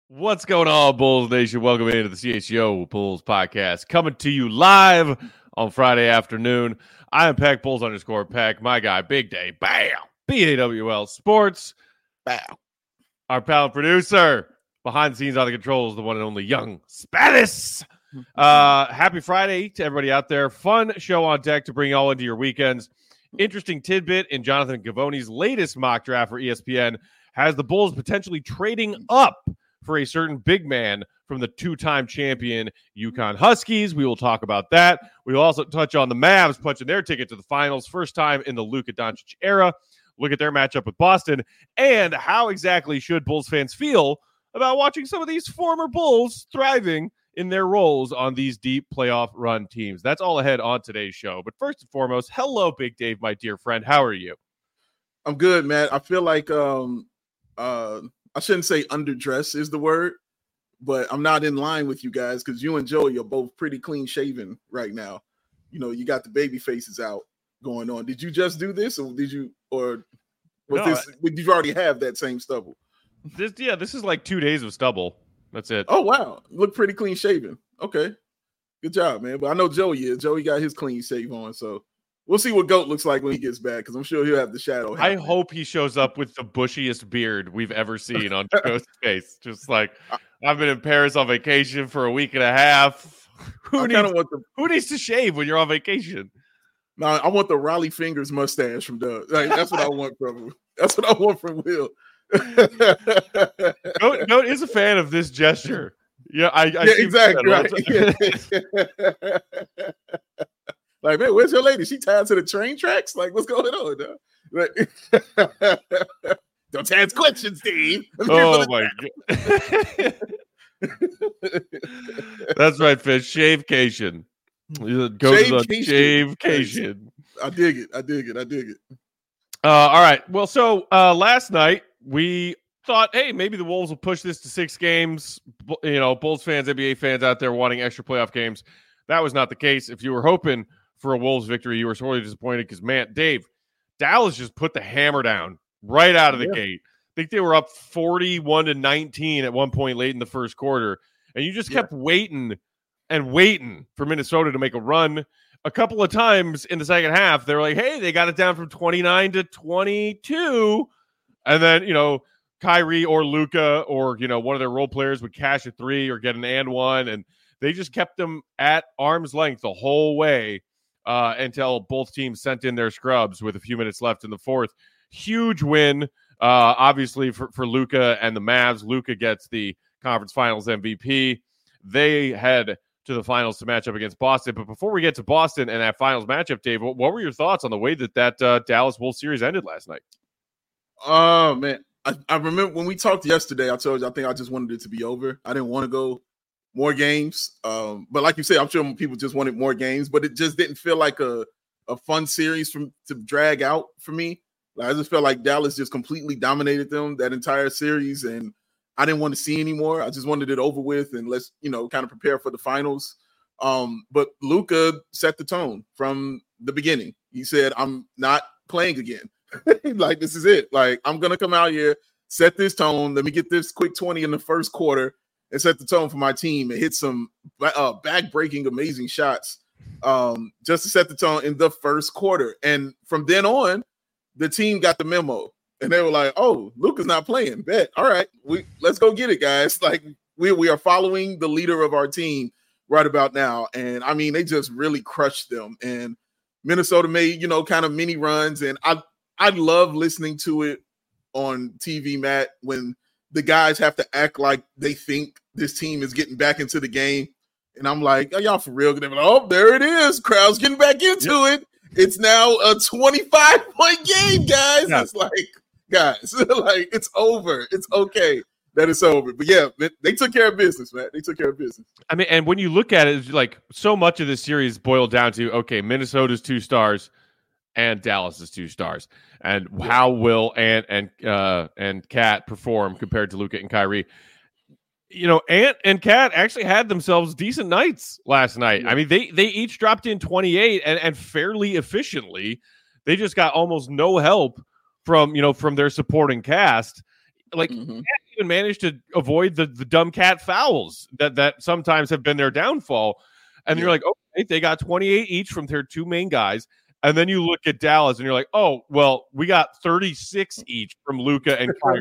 What's going on, Bulls Nation? Welcome into the CHGO Bulls podcast, coming to you live on Friday afternoon. I am Pack_Bulls_Pack, my guy, Big Day, bam, BAWL Sports, bam. Our pal producer, behind the scenes on the controls, the one and only Young Spatis. Happy Friday to everybody out there. Fun show on deck to bring you all into your weekends. Interesting tidbit in Jonathan Givony's latest mock draft for ESPN has the Bulls potentially trading up for a certain big man from the two-time champion UConn Huskies. We will talk about that. We will also touch on the Mavs punching their ticket to the finals, first time in the Luka Doncic era. Look at their matchup with Boston, and how exactly should Bulls fans feel about watching some of these former Bulls thriving in their roles on these deep playoff run teams. That's all ahead on today's show. But first and foremost, hello, Big Dave, my dear friend. How are you? I'm good, man. I feel like I shouldn't say underdress is the word, but I'm not in line with you guys because you and Joey are both pretty clean shaven right now. You know, you got the baby faces out going on. Did you just do this, or did you already have that same stubble? This is like 2 days of stubble. That's it. Oh wow, look pretty clean shaven. Okay, good job, man. But I know Joey is. Joey got his clean shave on, so we'll see what GOAT looks like when he gets back, because I'm sure he'll have the shadow. I hope he shows up with the bushiest beard we've ever seen on GOAT's face. Just like, I've been in Paris on vacation for a week and a half. Who needs to shave when you're on vacation? No, I want the Raleigh Fingers mustache from Doug. Like, that's what I want from him. That's what I want from Will. Goat is a fan of this gesture. Yeah, exactly right. Like, man, where's your lady? She tied to the train tracks? Like, what's going on, dog? Like, don't ask questions, Steve. Oh my god. That's right, Fish. Shavecation. Go to the shavecation. I dig it. All right. Well, so last night we thought, hey, maybe the Wolves will push this to 6 games. You know, Bulls fans, NBA fans out there wanting extra playoff games. That was not the case. If you were hoping for a Wolves victory, you were sorely disappointed because, man, Dave, Dallas just put the hammer down right out of the gate. I think they were up 41-19 at one point late in the first quarter, and you just kept waiting for Minnesota to make a run. A couple of times in the second half, they were like, hey, they got it down from 29-22, and then, you know, Kyrie or Luka or, you know, one of their role players would cash a 3 or get an and one, and they just kept them at arm's length the whole way until both teams sent in their scrubs with a few minutes left in the fourth. Huge win, obviously, for Luka and the Mavs. Luka gets the conference finals MVP. They head to the finals to match up against Boston. But before we get to Boston and that finals matchup, Dave, what were your thoughts on the way that Dallas Wolves series ended last night? Oh, man. I remember when we talked yesterday, I told you I think I just wanted it to be over. I didn't want to go more games. But like you said, I'm sure people just wanted more games, but it just didn't feel like a fun series to drag out for me. Like, I just felt like Dallas just completely dominated them that entire series, and I didn't want to see anymore. I just wanted it over with, and let's, you know, kind of prepare for the finals. But Luka set the tone from the beginning. He said, I'm not playing again. Like, this is it. Like, I'm going to come out here, set this tone. Let me get this quick 20 in the first quarter and set the tone for my team and hit some back-breaking, amazing shots just to set the tone in the first quarter. And from then on, the team got the memo. And they were like, oh, Luka's not playing. Bet. All right, let's go get it, guys. Like, we are following the leader of our team right about now. And, I mean, they just really crushed them. And Minnesota made, you know, kind of mini runs. And I love listening to it on TV, Matt, when the guys have to act like they think this team is getting back into the game. And I'm like, are y'all for real? They're like, oh, there it is. Crowd's getting back into it. It's now a 25-point game, guys. Yeah. It's like, guys, like, it's over. It's okay that it's over. But yeah, they took care of business, man. They took care of business. I mean, and when you look at it, it's like so much of this series boiled down to, okay, Minnesota's 2 stars and Dallas's 2 stars. And how will Ant and Cat perform compared to Luka and Kyrie? You know, Ant and Cat actually had themselves decent nights last night. Yeah. I mean, they each dropped in 28 and fairly efficiently. They just got almost no help from their supporting cast. Like, even managed to avoid the dumb cat fouls that sometimes have been their downfall. And you're like, okay, they got 28 each from their two main guys. And then you look at Dallas and you're like, oh, well, we got 36 each from Luka and Kyrie.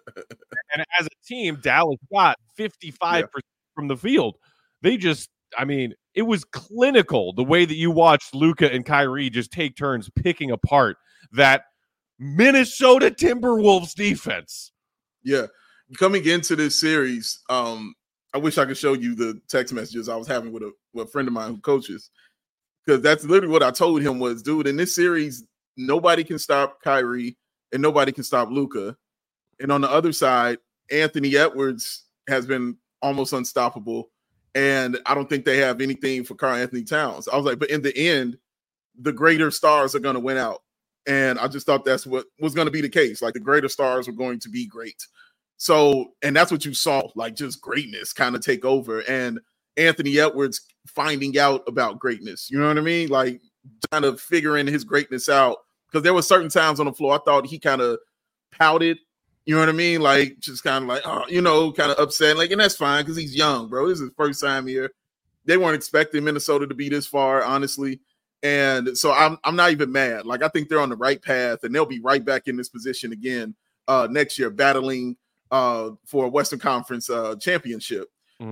And as a team, Dallas got 55% from the field. They just, I mean, it was clinical the way that you watched Luka and Kyrie just take turns picking apart that Minnesota Timberwolves defense. Yeah. Coming into this series, I wish I could show you the text messages I was having with a friend of mine who coaches. Because that's literally what I told him was, dude, in this series, nobody can stop Kyrie and nobody can stop Luka. And on the other side, Anthony Edwards has been almost unstoppable. And I don't think they have anything for Karl Anthony Towns. I was like, but in the end, the greater stars are going to win out. And I just thought that's what was going to be the case. Like the greater stars were going to be great. So, and that's what you saw, like just greatness kind of take over. And Anthony Edwards finding out about greatness. You know what I mean? Like kind of figuring his greatness out. Because there were certain times on the floor I thought he kind of pouted. You know what I mean? Like just kind of like, oh, you know, kind of upset. Like, and that's fine because he's young, bro. This is his first time here. They weren't expecting Minnesota to be this far, honestly. And so I'm not even mad. Like I think they're on the right path and they'll be right back in this position again next year, battling for a Western Conference championship.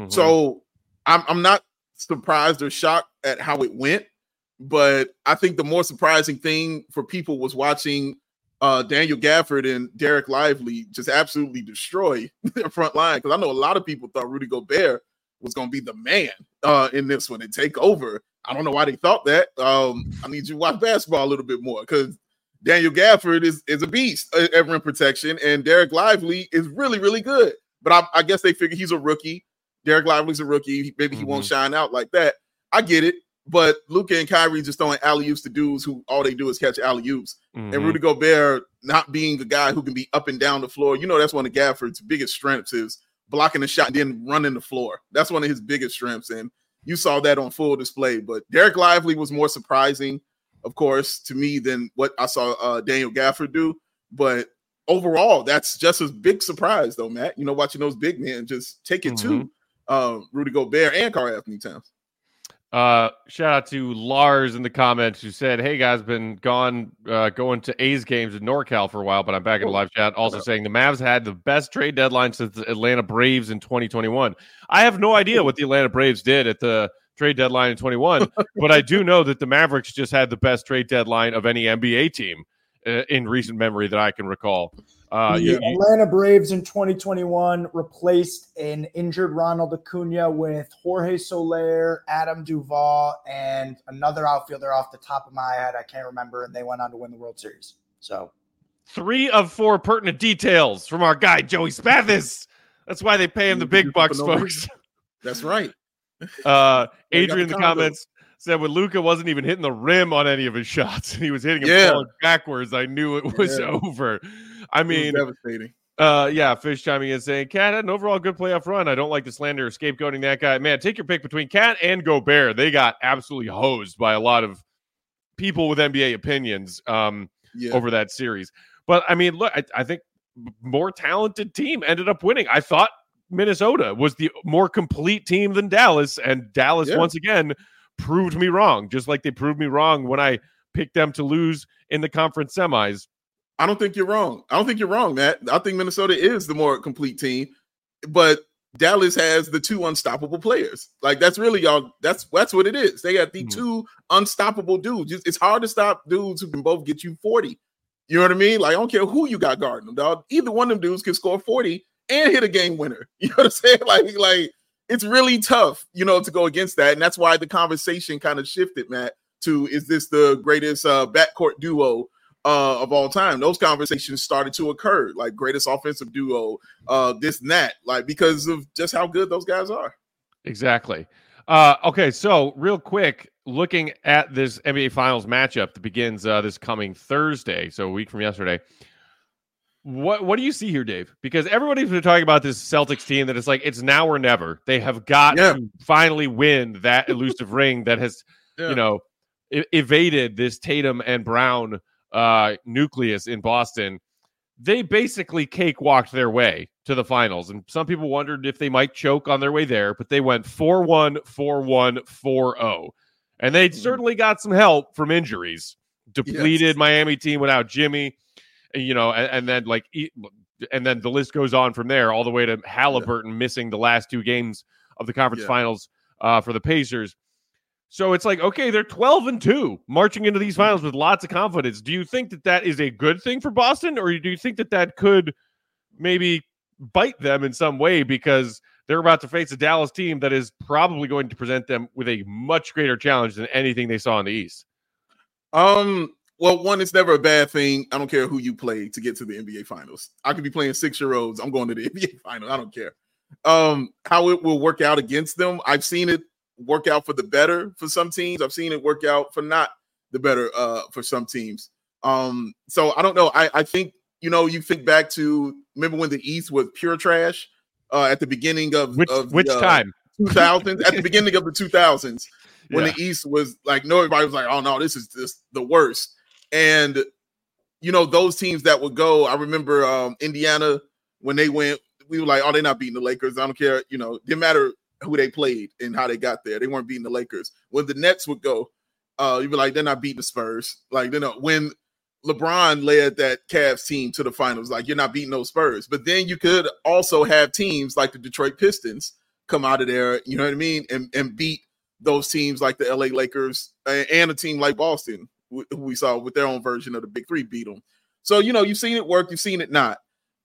So I'm not surprised or shocked at how it went, but I think the more surprising thing for people was watching Daniel Gafford and Derek Lively just absolutely destroy their front line. Because I know a lot of people thought Rudy Gobert was going to be the man in this one and take over. I don't know why they thought that. I need you to watch basketball a little bit more because Daniel Gafford is a beast at rim protection, and Derek Lively is really, really good. But I guess they figure he's a rookie. Derek Lively's a rookie. Maybe he won't shine out like that. I get it. But Luka and Kyrie just throwing alley-oops to dudes who all they do is catch alley-oops. And Rudy Gobert not being the guy who can be up and down the floor. You know, that's one of Gafford's biggest strengths is blocking the shot and then running the floor. That's one of his biggest strengths. And you saw that on full display. But Derek Lively was more surprising, of course, to me than what I saw Daniel Gafford do. But overall, that's just a big surprise, though, Matt. You know, watching those big men just take it to Rudy Gobert and Karl Anthony Towns. Shout out to Lars in the comments who said, hey guys, been gone going to A's games in NorCal for a while, but I'm back in the live chat. Also saying the Mavs had the best trade deadline since the Atlanta Braves in 2021. I have no idea what the Atlanta Braves did at the trade deadline in 21, but I do know that the Mavericks just had the best trade deadline of any NBA team in recent memory that I can recall. The Atlanta Braves in 2021 replaced an injured Ronald Acuna with Jorge Soler, Adam Duvall, and another outfielder off the top of my head. I can't remember, and they went on to win the World Series. So 3 of 4 pertinent details from our guy, Joey Spathis. That's why they pay him the big bucks, folks. That's right. Adrian in the comments said when Luka wasn't even hitting the rim on any of his shots, he was hitting him falling backwards. I knew it was over. I mean, devastating. Fish chiming in saying Cat had an overall good playoff run. I don't like the slander or scapegoating that guy. Man, take your pick between Cat and Gobert. They got absolutely hosed by a lot of people with NBA opinions over that series. But I mean, look, I think more talented team ended up winning. I thought Minnesota was the more complete team than Dallas, and Dallas once again proved me wrong, just like they proved me wrong when I picked them to lose in the conference semis. I don't think you're wrong. Matt. I think Minnesota is the more complete team, but Dallas has the 2 unstoppable players. Like that's really y'all. That's what it is. They got the 2 unstoppable dudes. It's hard to stop dudes who can both get you 40. You know what I mean? Like I don't care who you got guarding them, dog. Either one of them dudes can score 40 and hit a game winner. You know what I'm saying? Like it's really tough, you know, to go against that, and that's why the conversation kind of shifted, Matt, to is this the greatest backcourt duo of all time? Those conversations started to occur, like greatest offensive duo, this and that, like because of just how good those guys are. Exactly. Okay, so real quick, looking at this NBA Finals matchup that begins this coming Thursday, so a week from yesterday. What do you see here, Dave? Because everybody's been talking about this Celtics team that it's like it's now or never. They have got to finally win that elusive ring that has, you know, evaded this Tatum and Brown nucleus in Boston. they basically cakewalked their way to the finals. And some people wondered if they might choke on their way there, but they went 4-1, 4-1, 4-0. And they certainly got some help from injuries. Depleted Miami team without Jimmy, and then the list goes on from there all the way to Halliburton missing the last 2 games of the conference finals for the Pacers. So it's like, okay, they're 12-2 marching into these finals with lots of confidence. Do you think that is a good thing for Boston, or do you think that could maybe bite them in some way because they're about to face a Dallas team that is probably going to present them with a much greater challenge than anything they saw in the East? Well, one, it's never a bad thing. I don't care who you play to get to the NBA Finals. I could be playing 6-year-olds. I'm going to the NBA Finals. I don't care. How it will work out against them, I've seen it work out for the better for some teams. I've seen it work out for not the better for some teams. So I don't know. I think, you think back to, remember when the East was pure trash at the beginning of which time? 2000s, at the beginning of the 2000s, when the East was like, everybody was like, oh no, this is just the worst. And, those teams that would go, I remember Indiana, when they went, we were like, oh, they're not beating the Lakers. I don't care. Didn't matter who they played and how they got there. They weren't beating the Lakers. When the Nets would go, you'd be like, they're not beating the Spurs. Like, when LeBron led that Cavs team to the finals, like, you're not beating those Spurs. But then you could also have teams like the Detroit Pistons come out of there, you know what I mean, and beat those teams like the LA Lakers and a team like Boston, who we saw with their own version of the Big Three beat them. So, you've seen it work, you've seen it not.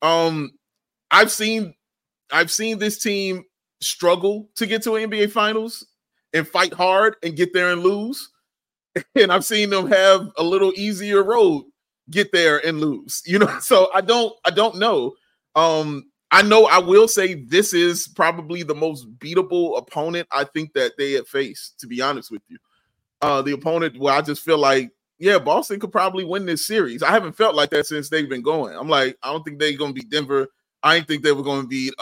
I've seen this team struggle to get to an NBA Finals and fight hard and get there and lose. And I've seen them have a little easier road, get there and lose, so I don't know. I know I will say this is probably the most beatable opponent I think that they have faced, to be honest with you. The opponent where I just feel like, Boston could probably win this series. I haven't felt like that since they've been going. I'm like, I don't think they're going to beat Denver. I didn't think they were going to beat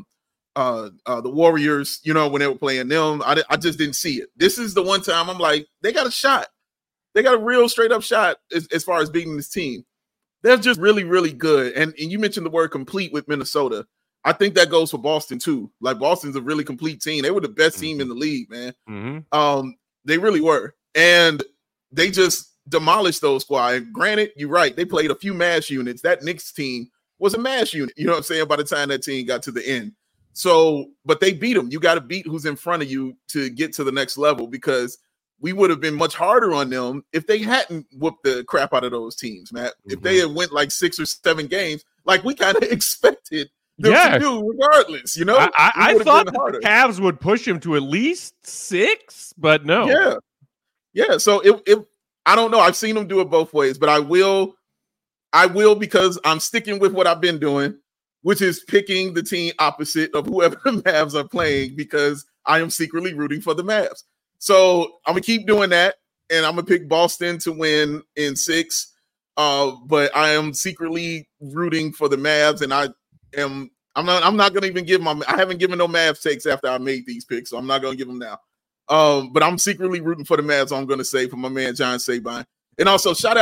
the Warriors, when they were playing them. I just didn't see it. This is the one time I'm like, they got a shot. They got a real straight up shot as far as beating this team. They're just really, really good. And you mentioned the word complete with Minnesota. I think that goes for Boston too. Like, Boston's a really complete team. They were the best team in the league, man. Mm-hmm. They really were. And they just demolished those squad. And granted, you're right. They played a few mash units. That Knicks team was a mash unit. You know what I'm saying? By the time that team got to the end. So, but they beat them. You got to beat who's in front of you to get to the next level, because we would have been much harder on them if they hadn't whooped the crap out of those teams, Matt. Mm-hmm. If they had went like 6 or 7 games, like we kind of expected them to do regardless, I thought the Cavs would push him to at least 6, but no. Yeah. So it I don't know. I've seen them do it both ways, but I will because I'm sticking with what I've been doing, which is picking the team opposite of whoever the Mavs are playing, because I am secretly rooting for the Mavs. So I'm going to keep doing that, and I'm going to pick Boston to win in 6. But I am secretly rooting for the Mavs, and I'm not going to even give I haven't given no Mavs takes after I made these picks, so I'm not going to give them now. But I'm secretly rooting for the Mavs, I'm going to say, for my man John Sabine. And also shout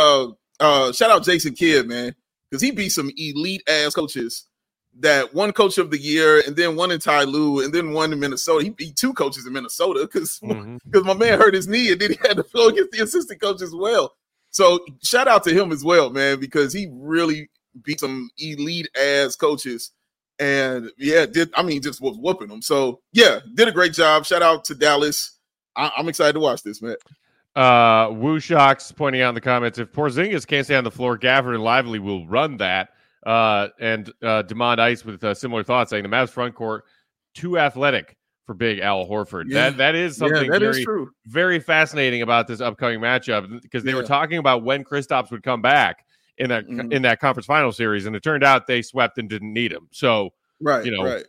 out Jason Kidd, man, because he beat some elite ass coaches. That one coach of the year, and then one in Ty Lue, and then one in Minnesota. He beat 2 coaches in Minnesota because my man hurt his knee, and then he had to go against the assistant coach as well. So shout out to him as well, man, because he really beat some elite ass coaches, and just was whooping them. So did a great job. Shout out to Dallas. I'm excited to watch this, man. Woo Shocks pointing out in the comments, if Porzingis can't stay on the floor, Gafford and Lively will run that. And Demond Ice with similar thoughts, saying the Mavs front court too athletic for Big Al Horford. That is something very, very fascinating about this upcoming matchup, because they were talking about when Kristaps would come back in that conference final series, and it turned out they swept and didn't need him. So right.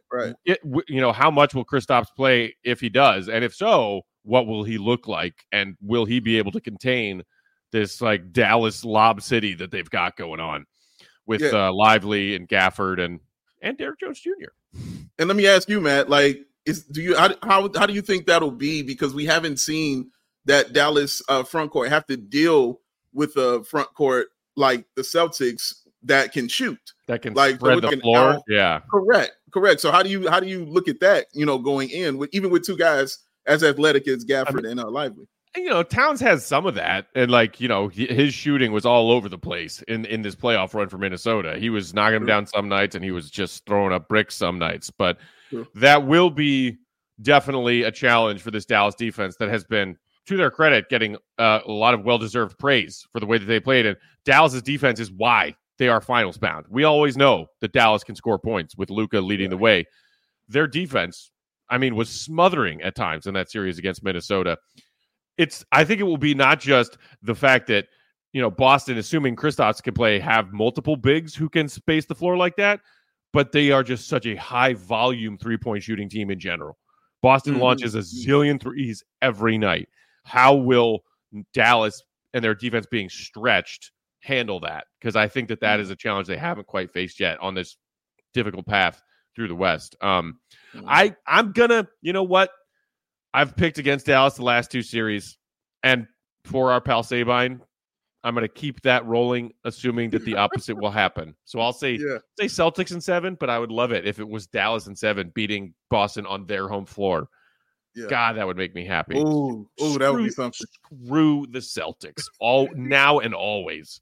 How much will Kristaps play if he does, and if so, what will he look like, and will he be able to contain this like Dallas Lob City that they've got going on with Lively and Gafford and Derrick Jones Jr. And let me ask you, Matt, like, how do you think that'll be? Because we haven't seen that Dallas front court have to deal with a front court like the Celtics that can shoot, that can like spread the floor. Yeah, correct. So how do you look at that? Going in with even with two guys as athletic as Gafford and Lively. Towns has some of that, and his shooting was all over the place in this playoff run for Minnesota. He was knocking them down some nights, and he was just throwing up bricks some nights. But that will be definitely a challenge for this Dallas defense that has been, to their credit, getting a lot of well-deserved praise for the way that they played. And Dallas's defense is why they are finals bound. We always know that Dallas can score points with Luka leading the way. Their defense, was smothering at times in that series against Minnesota. I think it will be not just the fact that, Boston, assuming Kristaps can play, have multiple bigs who can space the floor like that, but they are just such a high volume 3-point shooting team in general. Boston launches a zillion threes every night. How will Dallas and their defense being stretched handle that? Because I think that is a challenge they haven't quite faced yet on this difficult path through the West. I'm gonna, I've picked against Dallas the last two series, and for our pal Sabine, I'm going to keep that rolling, assuming that the opposite will happen. So I'll say Celtics in 7, but I would love it if it was Dallas in 7 beating Boston on their home floor. Yeah. God, that would make me happy. Ooh, that would be something. Screw the Celtics, all now and always.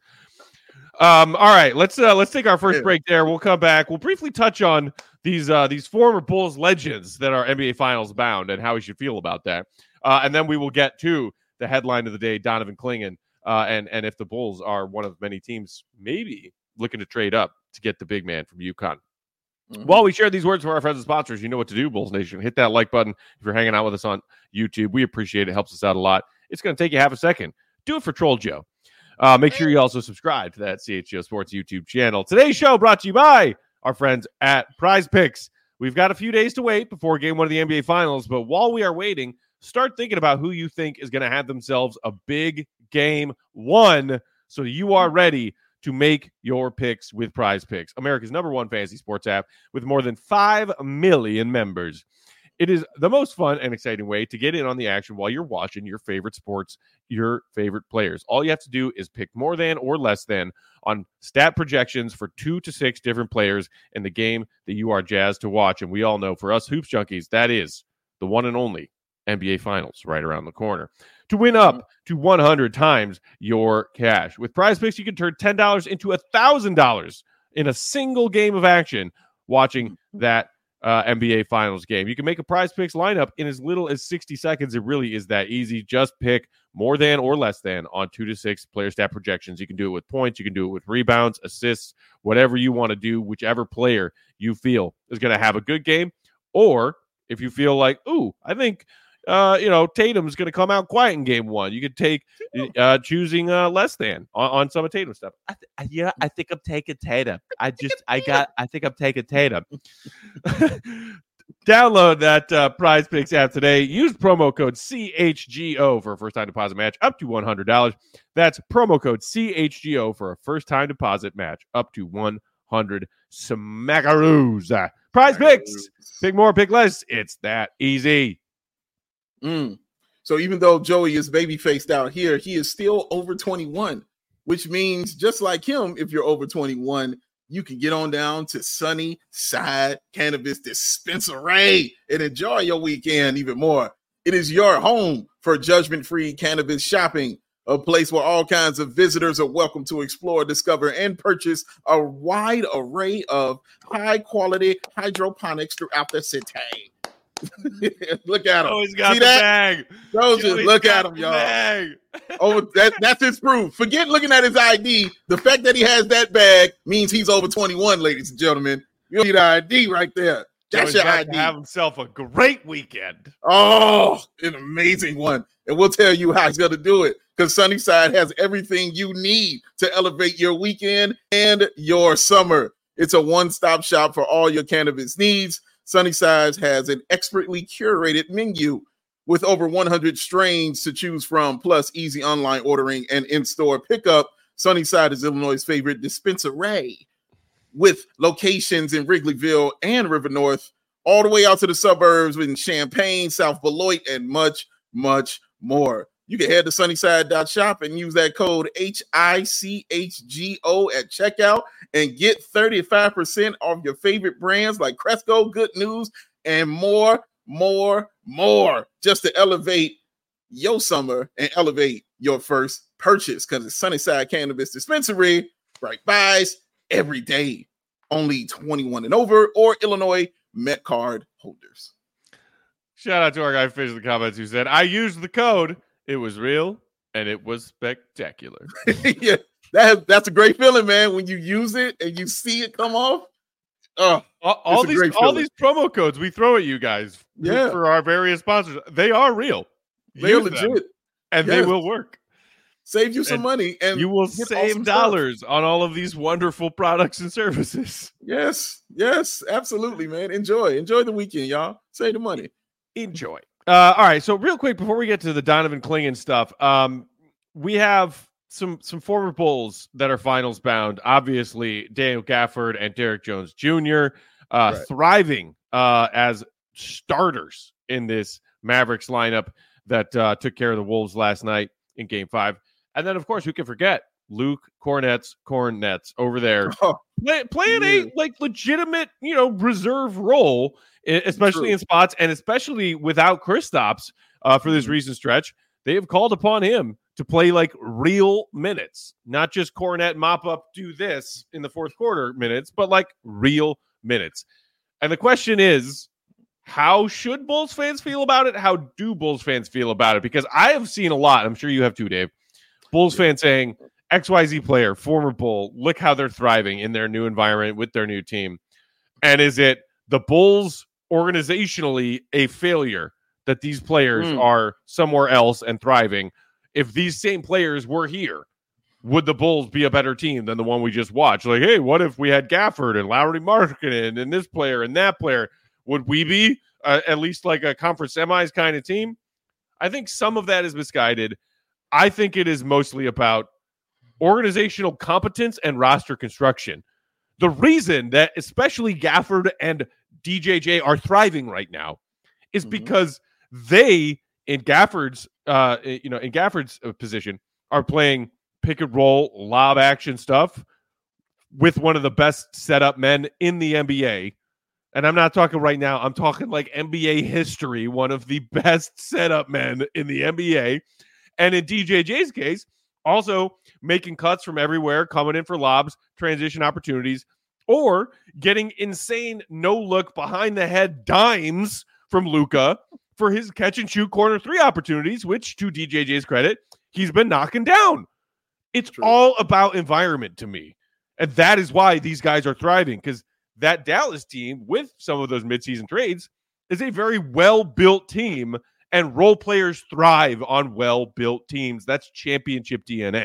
All right, let's take our first break there. We'll come back. We'll briefly touch on these former Bulls legends that are NBA Finals bound and how we should feel about that. And then we will get to the headline of the day, Donovan Clingan, and if the Bulls are one of many teams maybe looking to trade up to get the big man from UConn. While we share these words from our friends and sponsors, you know what to do, Bulls Nation. Hit that like button if you're hanging out with us on YouTube. We appreciate it. It helps us out a lot. It's going to take you half a second. Do it for Troll Joe. Make sure you also subscribe to that CHGO Sports YouTube channel. Today's show brought to you by our friends at Prize Picks. We've got a few days to wait before Game 1 of the NBA Finals, but while we are waiting, start thinking about who you think is going to have themselves a big Game 1 so you are ready to make your picks with Prize Picks, America's #1 fantasy sports app with more than 5 million members. It is the most fun and exciting way to get in on the action while you're watching your favorite sports, your favorite players. All you have to do is pick more than or less than on stat projections for 2 to 6 different players in the game that you are jazzed to watch. And we all know, for us Hoops Junkies, that is the one and only NBA Finals right around the corner. To win up to 100 times your cash. With Prize Picks, you can turn $10 into $1,000 in a single game of action watching that NBA Finals game. You can make a Prize Picks lineup in as little as 60 seconds. It really is that easy. Just pick more than or less than on 2 to 6 player stat projections. You can do it with points. You can do it with rebounds, assists, whatever you want to do, whichever player you feel is going to have a good game. Or if you feel like, I think Tatum's going to come out quiet in Game 1. You could take choosing less than on some of Tatum's stuff. I think I'm taking Tatum. I think I'm taking Tatum. Download that Prize Picks app today. Use promo code CHGO for a first time deposit match up to $100. That's promo code CHGO for a first time deposit match up to $100. Smackaroos. Prize Picks. Pick more, pick less. It's that easy. So even though Joey is baby faced out here, he is still over 21, which means just like him, if you're over 21, you can get on down to Sunnyside Cannabis Dispensary and enjoy your weekend even more. It is your home for judgment-free cannabis shopping, a place where all kinds of visitors are welcome to explore, discover, and purchase a wide array of high-quality hydroponics throughout the city. Look at him. Joey's got the bag. Look at him, y'all. That's his proof. Forget looking at his ID. The fact that he has that bag means he's over 21, ladies and gentlemen. You need an ID right there. That's your ID. Have himself a great weekend. Oh, an amazing one. And we'll tell you how he's going to do it, because Sunnyside has everything you need to elevate your weekend and your summer. It's a one-stop shop for all your cannabis needs. Sunnyside has an expertly curated menu with over 100 strains to choose from, plus easy online ordering and in-store pickup. Sunnyside is Illinois' favorite dispensary, with locations in Wrigleyville and River North, all the way out to the suburbs in Champaign, South Beloit, and much, much more. you can head to Sunnyside.shop and use that code HICHGO at checkout and get 35% off your favorite brands like Cresco, Good News, and more, just to elevate your summer and elevate your first purchase, because it's Sunnyside Cannabis Dispensary, right buys every day. Only 21 and over or Illinois Met card holders. Shout out to our guy Fish in the comments who said, I used the code. It was real and it was spectacular. Yeah, that's a great feeling, man. When you use it and you see it come off. All these promo codes we throw at you guys for our various sponsors, they are real. They're legit. And they will work. Save you some money, and you will save awesome dollars on all of these wonderful products and services. Yes, absolutely, man. Enjoy the weekend, y'all. Save the money. Enjoy. All right, so real quick before we get to the Donovan Clingan stuff, we have some former Bulls that are finals bound. Obviously, Daniel Gafford and Derek Jones Jr. Thriving as starters in this Mavericks lineup that took care of the Wolves last night in Game 5. And then, of course, we can forget Luke Cornets over there playing a legitimate, reserve role, especially in spots and especially without Kristaps for this recent stretch. They have called upon him to play like real minutes, not just Cornet mop up, do this in the fourth quarter minutes, but like real minutes. And the question is, how should Bulls fans feel about it? How do Bulls fans feel about it? Because I have seen a lot, I'm sure you have too, Dave, Bulls fans saying, XYZ player, former Bull, look how they're thriving in their new environment with their new team. And is it the Bulls organizationally a failure that these players are somewhere else and thriving? If these same players were here, would the Bulls be a better team than the one we just watched? Like, hey, what if we had Gafford and Lauri Markkanen and this player and that player? Would we be at least like a conference semis kind of team? I think some of that is misguided. I think it is mostly about organizational competence and roster construction. The reason that especially Gafford and DJJ are thriving right now is because they, in Gafford's position, are playing pick and roll, lob action stuff with one of the best setup men in the NBA. And I'm not talking right now. I'm talking like NBA history, one of the best setup men in the NBA. And in DJJ's case, also making cuts from everywhere, coming in for lobs, transition opportunities, or getting insane no-look behind-the-head dimes from Luka for his catch-and-shoot corner three opportunities, which, to DJJ's credit, he's been knocking down. It's all about environment to me. And that is why these guys are thriving, because that Dallas team, with some of those midseason trades, is a very well-built team, and role players thrive on well-built teams. That's championship DNA.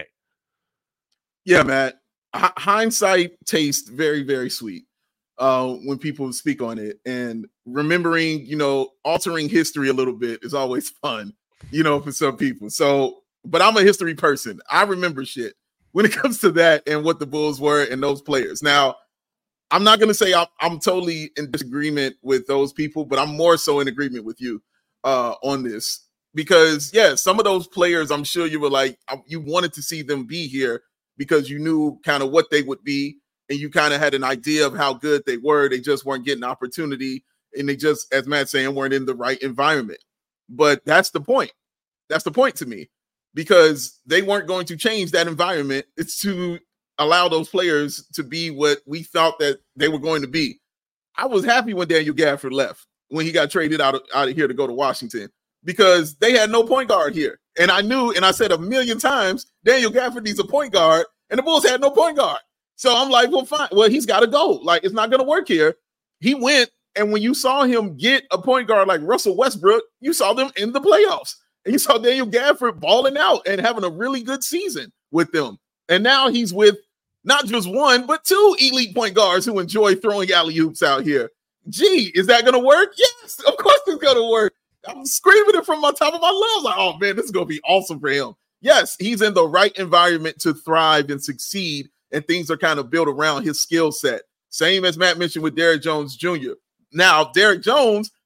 Yeah, Matt. Hindsight tastes very, very sweet when people speak on it. And remembering, altering history a little bit is always fun, for some people. So, but I'm a history person. I remember shit when it comes to that and what the Bulls were and those players. Now, I'm not going to say I'm totally in disagreement with those people, but I'm more so in agreement with you on this. Because, some of those players, I'm sure you were like, you wanted to see them be here because you knew kind of what they would be, and you kind of had an idea of how good they were. They just weren't getting opportunity, and they just, as Matt's saying, weren't in the right environment. But that's the point. That's the point to me, because they weren't going to change that environment. It's to allow those players to be what we thought that they were going to be. I was happy when Daniel Gafford left, when he got traded out of here to go to Washington, because they had no point guard here. And I knew, and I said a million times, Daniel Gafford needs a point guard, and the Bulls had no point guard. So I'm like, well, fine. Well, he's got to go. Like, it's not going to work here. He went, and when you saw him get a point guard like Russell Westbrook, you saw them in the playoffs. And you saw Daniel Gafford balling out and having a really good season with them. And now he's with not just one, but two elite point guards who enjoy throwing alley-oops out here. Gee, is that going to work? Yes, of course it's going to work. I'm screaming it from my top of my lungs. Like, oh, man, this is going to be awesome for him. Yes, he's in the right environment to thrive and succeed, and things are kind of built around his skill set. Same as Matt mentioned with Derek Jones Jr. Now, Derek Jones,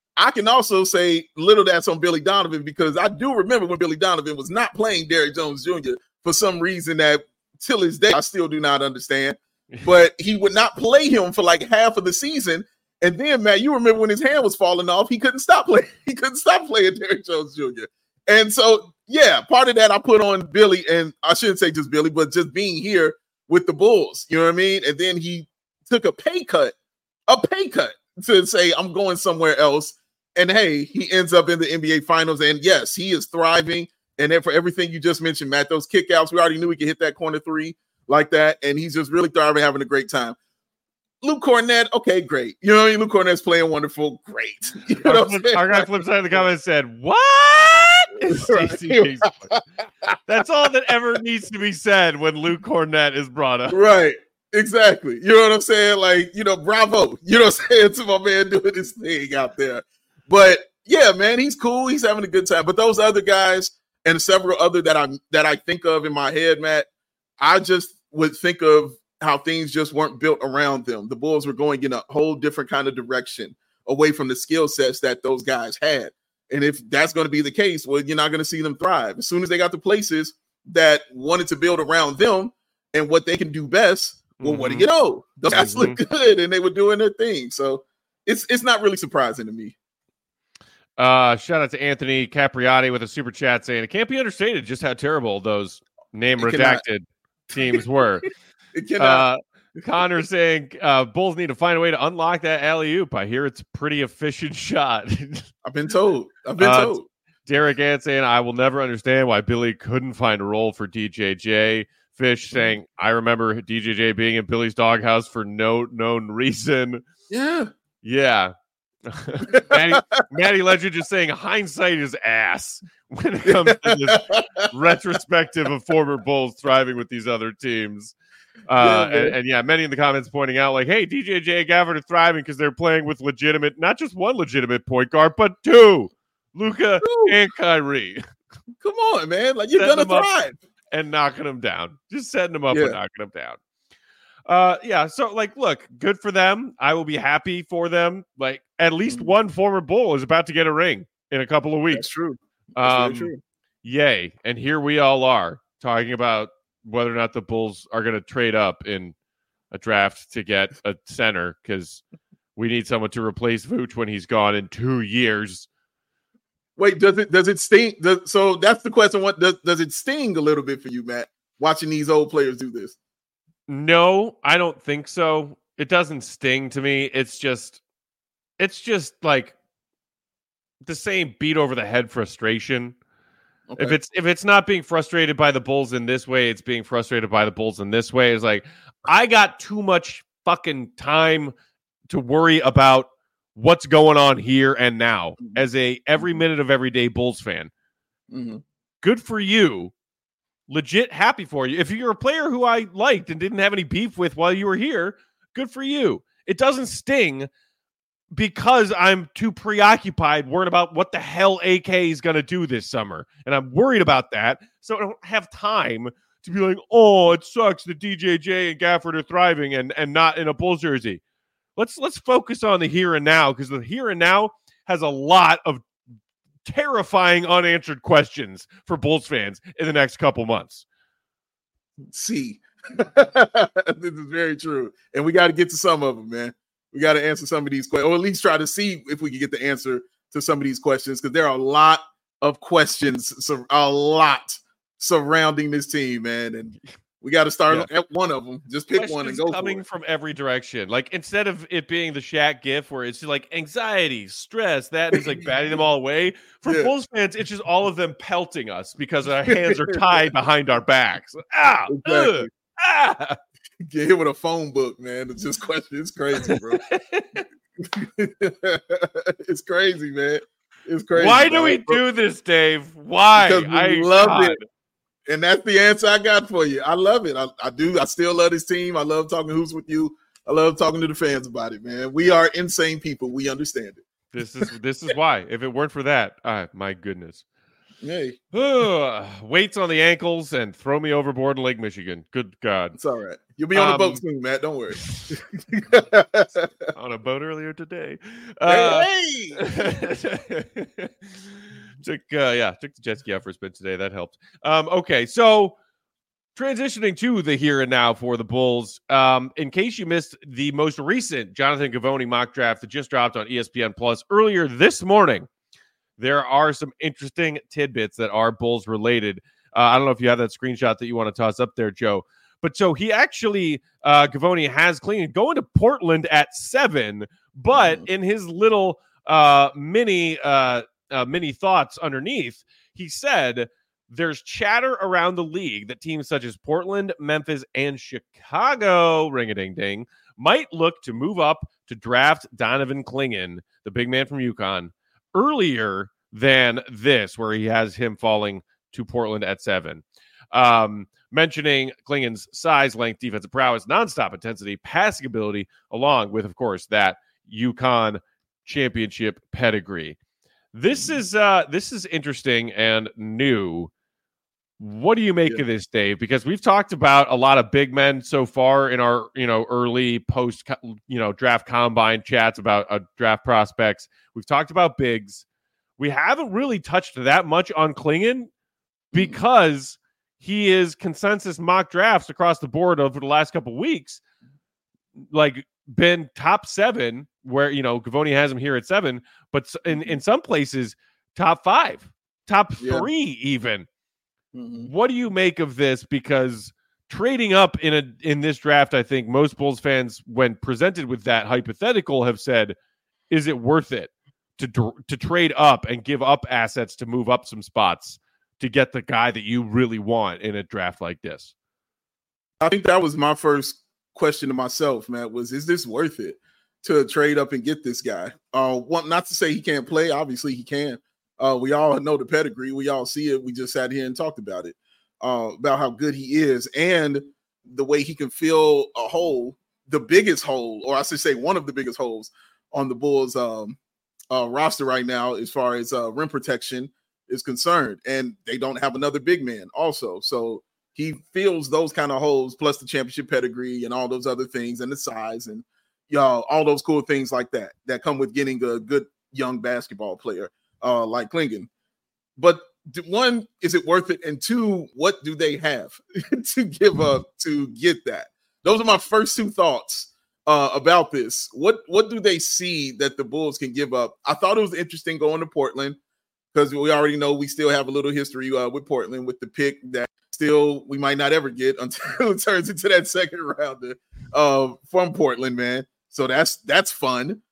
I can also say little that's on Billy Donovan, because I do remember when Billy Donovan was not playing Derrick Jones Jr. for some reason that till this day I still do not understand. But he would not play him for like half of the season. And then, Matt, you remember when his hand was falling off, he couldn't stop playing. He couldn't stop playing Derrick Jones Jr. And so, yeah, part of that I put on Billy, and I shouldn't say just Billy, but just being here with the Bulls. You know what I mean? And then he took a pay cut to say, I'm going somewhere else. And hey, he ends up in the NBA Finals. And yes, he is thriving. And then for everything you just mentioned, Matt, those kickouts, we already knew he could hit that corner three like that. And he's just really thriving, having a great time. Luke Cornett, okay, great. You know, Luke Cornett's playing wonderful, great. You know our guy flips side of the comments said, what? Right. That's all that ever needs to be said when Luke Cornett is brought up. Right. Exactly. You know what I'm saying? Like, bravo. You know what I'm saying? To my man doing this thing out there. But yeah, man, he's cool. He's having a good time. But those other guys and several other that I think of in my head, Matt, I just would think of how things just weren't built around them. The Bulls were going in a whole different kind of direction away from the skill sets that those guys had. And if that's going to be the case, well, you're not going to see them thrive. As soon as they got the places that wanted to build around them and what they can do best, well, what do you know? Those guys look good, and they were doing their thing. So it's not really surprising to me. Shout out to Anthony Capriati with a super chat saying, it can't be understated just how terrible those redacted teams were. Connor saying Bulls need to find a way to unlock that alley-oop. I hear it's a pretty efficient shot. I've been told. Derek Ant saying, I will never understand why Billy couldn't find a role for DJJ. Fish saying, I remember DJJ being in Billy's doghouse for no known reason. Yeah. Matty Legend just saying hindsight is ass when it comes to this retrospective of former Bulls thriving with these other teams. And many in the comments pointing out like, hey, DJJ and Gafford are thriving because they're playing with not just one legitimate point guard, but two, Luka and Kyrie. Come on, man. Like, you're going to thrive. And knocking them down. Just setting them up and knocking them down. So, like, look, good for them. I will be happy for them. Like, at least one former Bull is about to get a ring in a couple of weeks. That's true. That's very true. Yay. And here we all are talking about whether or not the Bulls are going to trade up in a draft to get a center because we need someone to replace Vooch when he's gone in 2 years. Wait, does it sting? So that's the question. What does it sting a little bit for you, Matt, watching these old players do this? No, I don't think so. It doesn't sting to me. It's just like the same beat over the head frustration. Okay. If it's not being frustrated by the Bulls in this way, it's being frustrated by the Bulls in this way. It's like, I got too much fucking time to worry about what's going on here and now as a every minute of everyday Bulls fan. Good for you. Legit happy for you. If you're a player who I liked and didn't have any beef with while you were here, good for you. It doesn't sting because I'm too preoccupied worried about what the hell AK is going to do this summer. And I'm worried about that. So I don't have time to be like, oh, it sucks that DJJ and Gafford are thriving and not in a Bulls jersey. Let's focus on the here and now, because the here and now has a lot of terrifying unanswered questions for Bulls fans in the next couple months. See, this is very true. And we got to get to some of them, man. We got to answer some of these questions, or at least try to see if we can get the answer to some of these questions, because there are a lot of questions, surrounding this team, man. And we got to start at one of them. Just pick one and go coming for it. From every direction. Like, instead of it being the Shaq gif where it's just like anxiety, stress, that is like batting them all away. For Bulls fans, it's just all of them pelting us because our hands are tied behind our backs. Exactly. Get hit with a phone book, man. It's just question. It's crazy, bro. It's crazy, man. It's crazy. Why do we do this, Dave? Why? Because we love it. And that's the answer I got for you. I love it. I do. I still love this team. I love talking hoops with you. I love talking to the fans about it, man. We are insane people. We understand it. This is why. If it weren't for that, my goodness. Hey, weights on the ankles and throw me overboard in Lake Michigan. Good God. it's all right. You'll be on the boat soon, Matt. Don't worry. On a boat earlier today. Hey! Took the jet ski out for a spin today. That helped. Okay, so transitioning to the here and now for the Bulls. In case you missed the most recent Jonathan Givony mock draft that just dropped on ESPN Plus earlier this morning, there are some interesting tidbits that are Bulls related. I don't know if you have that screenshot that you want to toss up there, Joe. But so he actually, Givony has Clingan going to Portland at 7, but in his little mini thoughts underneath, he said there's chatter around the league that teams such as Portland, Memphis, and Chicago, ring-a-ding-ding, might look to move up to draft Donovan Clingan, the big man from UConn, earlier than this, where he has him falling to Portland at 7. Mentioning Clingan's size, length, defensive prowess, nonstop intensity, passing ability, along with, of course, that UConn championship pedigree. This is interesting and new. What do you make of this, Dave? Because we've talked about a lot of big men so far in our early post draft combine chats about draft prospects. We've talked about bigs. We haven't really touched that much on Clingan because he is consensus mock drafts across the board over the last couple of weeks, like been top 7, where Givony has him here at 7, but in some places top 5, top 3 even. What do you make of this? Because trading up in this draft, I think most Bulls fans, when presented with that hypothetical, have said, is it worth it to trade up and give up assets to move up some spots to get the guy that you really want in a draft like this? I think that was my first question to myself, Matt, is this worth it to trade up and get this guy? Not to say he can't play. Obviously he can. We all know the pedigree. We all see it. We just sat here and talked about it, about how good he is and the way he can fill a hole, the biggest hole, or I should say one of the biggest holes on the Bulls roster right now as far as rim protection is concerned. And they don't have another big man also. So he fills those kind of holes, plus the championship pedigree and all those other things and the size and all those cool things like that come with getting a good young basketball player like Clingan. But one, is it worth it? And two, what do they have to give up to get that? Those are my first 2 thoughts about this. What do they see that the Bulls can give up? I thought it was interesting going to Portland, because we already know we still have a little history with Portland, with the pick that still we might not ever get until it turns into that second rounder from Portland, man. So that's fun.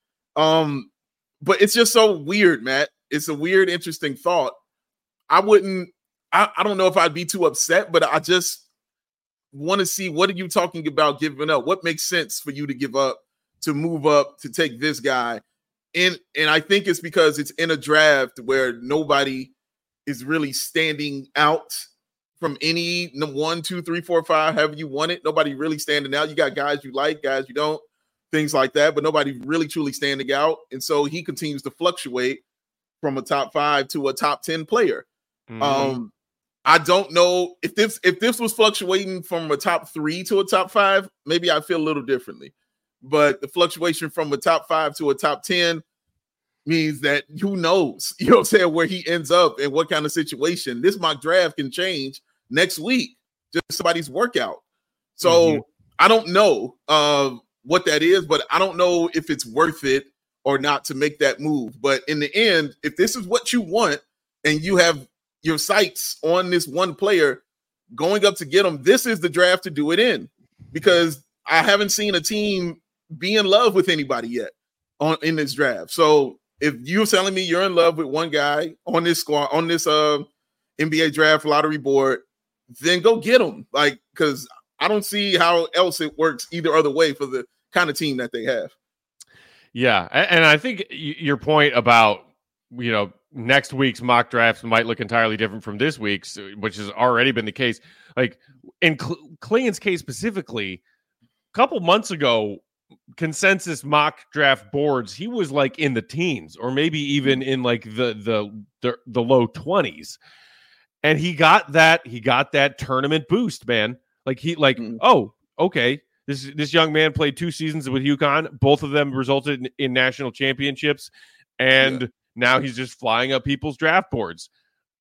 But it's just so weird, Matt. It's a weird, interesting thought. I don't know if I'd be too upset, but I just want to see, what are you talking about giving up? What makes sense for you to give up, to move up, to take this guy? And I think it's because it's in a draft where nobody is really standing out from any 1, 2, 3, 4, 5, however you want it. Nobody really standing out. You got guys you like, guys you don't, things like that, but nobody really truly standing out. And so he continues to fluctuate from a top 5 to a top 10 player. I don't know if this was fluctuating from a top 3 to a top 5, maybe I feel a little differently. But the fluctuation from a top 5 to a top 10 means that who knows, you know what I'm saying, where he ends up and what kind of situation. This mock draft can change next week, just somebody's workout. So I don't know what that is, but I don't know if it's worth it or not to make that move. But in the end, if this is what you want and you have your sights on this one player going up to get him, this is the draft to do it in, because I haven't seen a team be in love with anybody yet in this draft. So if you're telling me you're in love with one guy on this squad, on this NBA draft lottery board, then go get him. Like, because I don't see how else it works either other way for the kind of team that they have. Yeah, and I think your point about, next week's mock drafts might look entirely different from this week's, which has already been the case. Like in Clingan's case specifically, a couple months ago, consensus mock draft boards, he was like in the teens or maybe even in like the low 20s. And he got that tournament boost, man. Like oh, okay. This young man played 2 seasons with UConn. Both of them resulted in national championships. And now he's just flying up people's draft boards.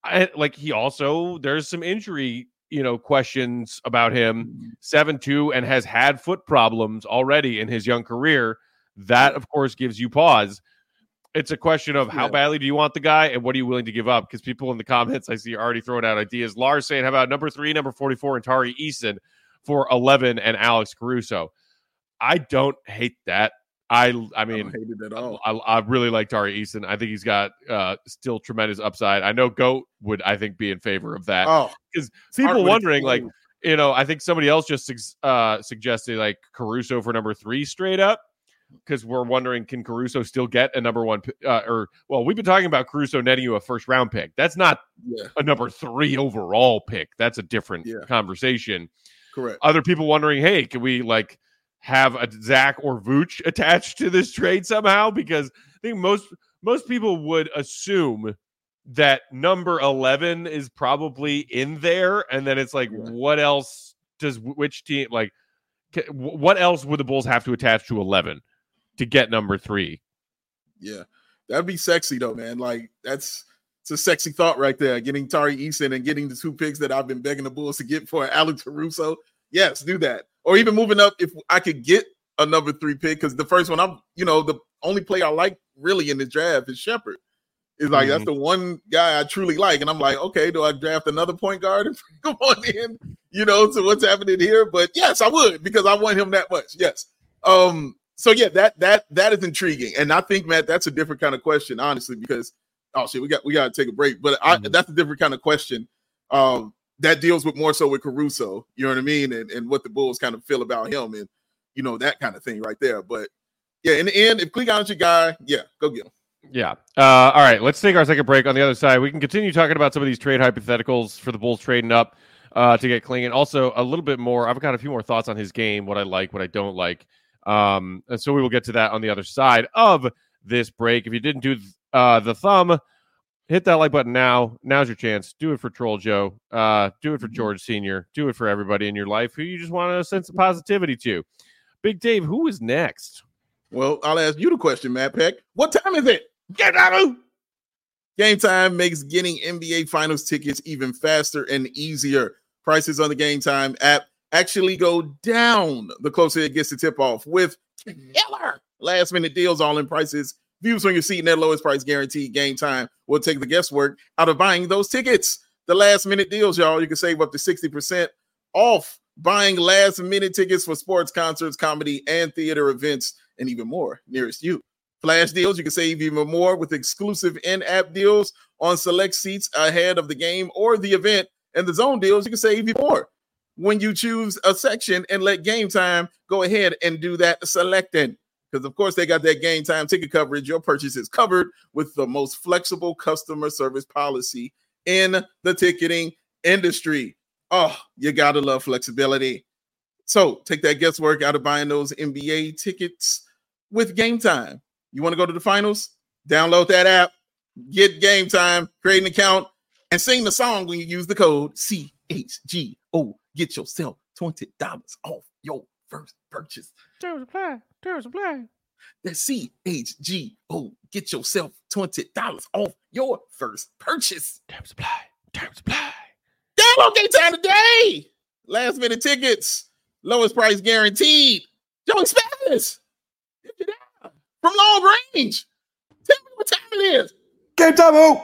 There's some injury, questions about him. 7'2" and has had foot problems already in his young career. That, of course, gives you pause. It's a question of how badly do you want the guy and what are you willing to give up? Because people in the comments I see are already throwing out ideas. Lars saying, how about number 3, number 44, and Tari Eason for 11 and Alex Caruso? I don't hate that. I mean, I don't hate it at all. I really like Tari Eason. I think he's got still tremendous upside. I know Goat would, I think, be in favor of that. Oh, because people wondering, I think somebody else just suggested like Caruso for number 3 straight up. Because we're wondering, can Caruso still get a number 1 we've been talking about Caruso netting you a first round pick. That's not a number 3 overall pick. That's a different conversation. Correct. Other people wondering, hey, can we have a Zach or Vooch attached to this trade somehow? Because I think most people would assume that number 11 is probably in there. And then it's what else does which team what else would the Bulls have to attach to 11 to get number 3? Yeah, that'd be sexy though, man. It's a sexy thought right there. Getting Tari Eason and getting the 2 picks that I've been begging the Bulls to get for Alex Caruso. Yes, do that. Or even moving up if I could get a number 3 pick, because the first one the only play I like really in the draft is Shepherd. It's that's the one guy I truly like, and I'm like, okay, do I draft another point guard and bring him on in? To what's happening here? But yes, I would, because I want him that much. Yes. So yeah, that is intriguing, and I think, Matt, that's a different kind of question, honestly, because we got to take a break, but that's a different kind of question. That deals with more so with Caruso, you know what I mean, and what the Bulls kind of feel about him, and that kind of thing right there. But yeah, in the end, if Clegon's your guy, go get him. Yeah. All right, let's take our second break. On the other side, we can continue talking about some of these trade hypotheticals for the Bulls trading up to get Clingan. Also, a little bit more. I've got a few more thoughts on his game, what I like, what I don't like. And so we will get to that on the other side of this break. If you didn't do the thumb, hit that like button now. Now's your chance. Do it for Troll Joe. Do it for George Sr. Do it for everybody in your life who you just want to send some positivity to. Big Dave, who is next? Well, I'll ask you the question, Matt Peck. What time is it? Game Time makes getting NBA Finals tickets even faster and easier. Prices on the Game Time app actually go down the closer it gets to tip-off with killer last-minute deals, all-in prices, views on your seat, and that lowest price guaranteed. Game Time will take the guesswork out of buying those tickets. The last-minute deals, y'all, you can save up to 60% off buying last-minute tickets for sports, concerts, comedy, and theater events, and even more nearest you. Flash deals, you can save even more with exclusive in-app deals on select seats ahead of the game or the event. And the zone deals, you can save even more when you choose a section and let Game Time go ahead and do that selecting. Because, of course, they got that Game Time ticket coverage. Your purchase is covered with the most flexible customer service policy in the ticketing industry. Oh, you got to love flexibility. So take that guesswork out of buying those NBA tickets with Game Time. You want to go to the finals? Download that app, get Game Time, create an account, and sing the song when you use the code CHGO. Get yourself $20 off your first purchase. Terms apply. That's CHGO. Get yourself $20 off your first purchase. Terms apply. Download Game Time today. Last minute tickets, lowest price guaranteed. Joey Spanish. From long range. Tell me what time it is. Game Time, who?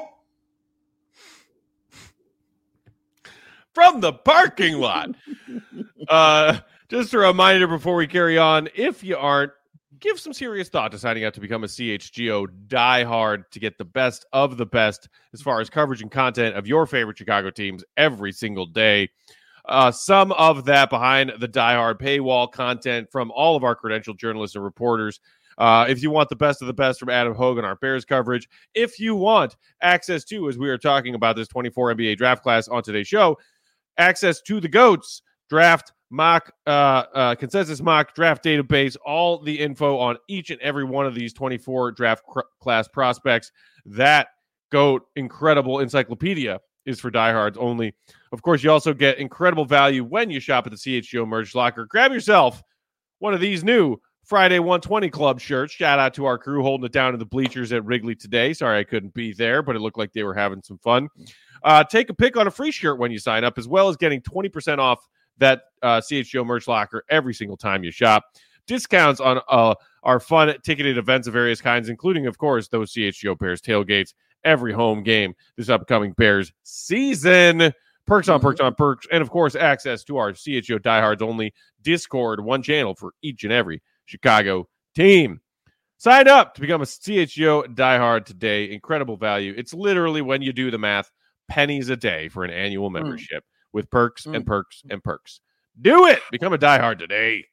From the parking lot. Just a reminder before we carry on, if you aren't, give some serious thought to signing up to become a CHGO diehard to get the best of the best as far as coverage and content of your favorite Chicago teams every single day. Some of that behind the diehard paywall content from all of our credentialed journalists and reporters. If you want the best of the best from Adam Hogan, our Bears coverage, if you want access to, as we are talking about this 24 NBA draft class on today's show, access to the GOATs draft consensus mock draft database, all the info on each and every one of these 24 draft class prospects. That GOAT incredible encyclopedia is for diehards only. Of course, you also get incredible value when you shop at the CHGO Merch Locker. Grab yourself one of these new Friday 120 Club shirts. Shout out to our crew holding it down in the bleachers at Wrigley today. Sorry I couldn't be there, but it looked like they were having some fun. Take a pick on a free shirt when you sign up, as well as getting 20% off that CHGO Merch Locker every single time you shop. Discounts on our fun ticketed events of various kinds, including, of course, those CHGO Bears tailgates every home game this upcoming Bears season. Perks on perks on perks. And, of course, access to our CHGO Diehards only Discord, one channel for each and every Chicago team. Sign up to become a CHGO diehard today. Incredible value. It's literally, when you do the math, pennies a day for an annual membership with perks and perks and perks. Do it. Become a diehard today.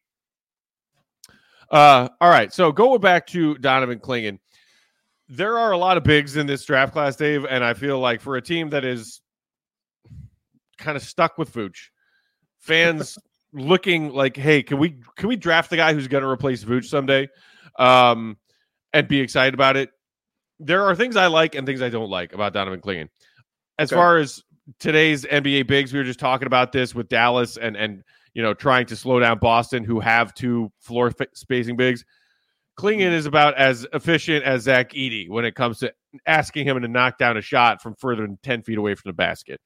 All right. So going back to Donovan Clingan, there are a lot of bigs in this draft class, Dave, and I feel like for a team that is kind of stuck with Vooch, fans looking like, hey, can we draft the guy who's going to replace Vooch someday, and be excited about it? There are things I like and things I don't like about Donovan Clingan. As far as today's NBA bigs, we were just talking about this with Dallas and trying to slow down Boston, who have two floor spacing bigs. Clingan is about as efficient as Zach Edey when it comes to asking him to knock down a shot from further than 10 feet away from the basket.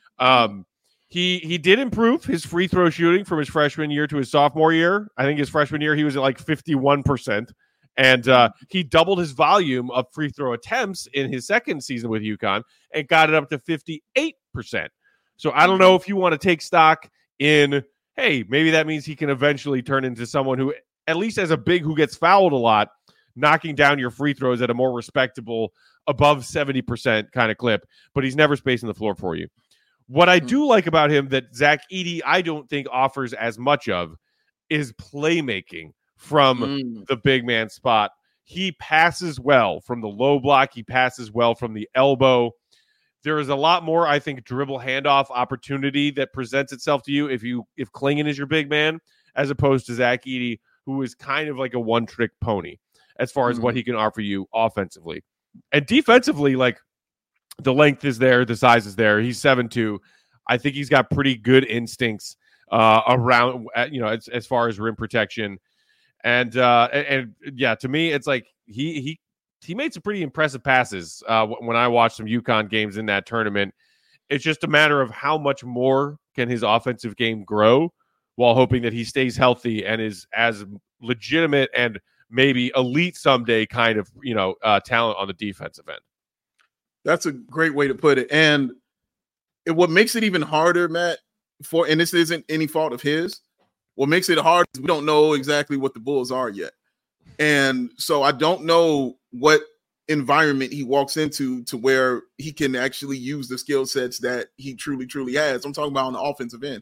He did improve his free throw shooting from his freshman year to his sophomore year. I think his freshman year he was at like 51%. And he doubled his volume of free throw attempts in his second season with UConn and got it up to 58%. So I don't know if you want to take stock in, hey, maybe that means he can eventually turn into someone who, at least as a big who gets fouled a lot, knocking down your free throws at a more respectable, above 70% kind of clip, but he's never spacing the floor for you. What I do like about him that Zach Edey, I don't think offers as much of, is playmaking from the big man spot. He passes well from the low block. He passes well from the elbow. There is a lot more, I think, dribble handoff opportunity that presents itself to you if Clingan is your big man, as opposed to Zach Edey, who is kind of like a one-trick pony as far as what he can offer you offensively. And defensively, like, the length is there, the size is there. He's 7'2". I think he's got pretty good instincts around, as far as rim protection. And yeah, to me, it's like he made some pretty impressive passes when I watched some UConn games in that tournament. It's just a matter of how much more can his offensive game grow, while hoping that he stays healthy and is as legitimate and maybe elite someday kind of talent on the defensive end. That's a great way to put it. And what makes it even harder, Matt, and this isn't any fault of his, what makes it hard is we don't know exactly what the Bulls are yet. And so I don't know what environment he walks into to where he can actually use the skill sets that he truly, truly has. I'm talking about on the offensive end.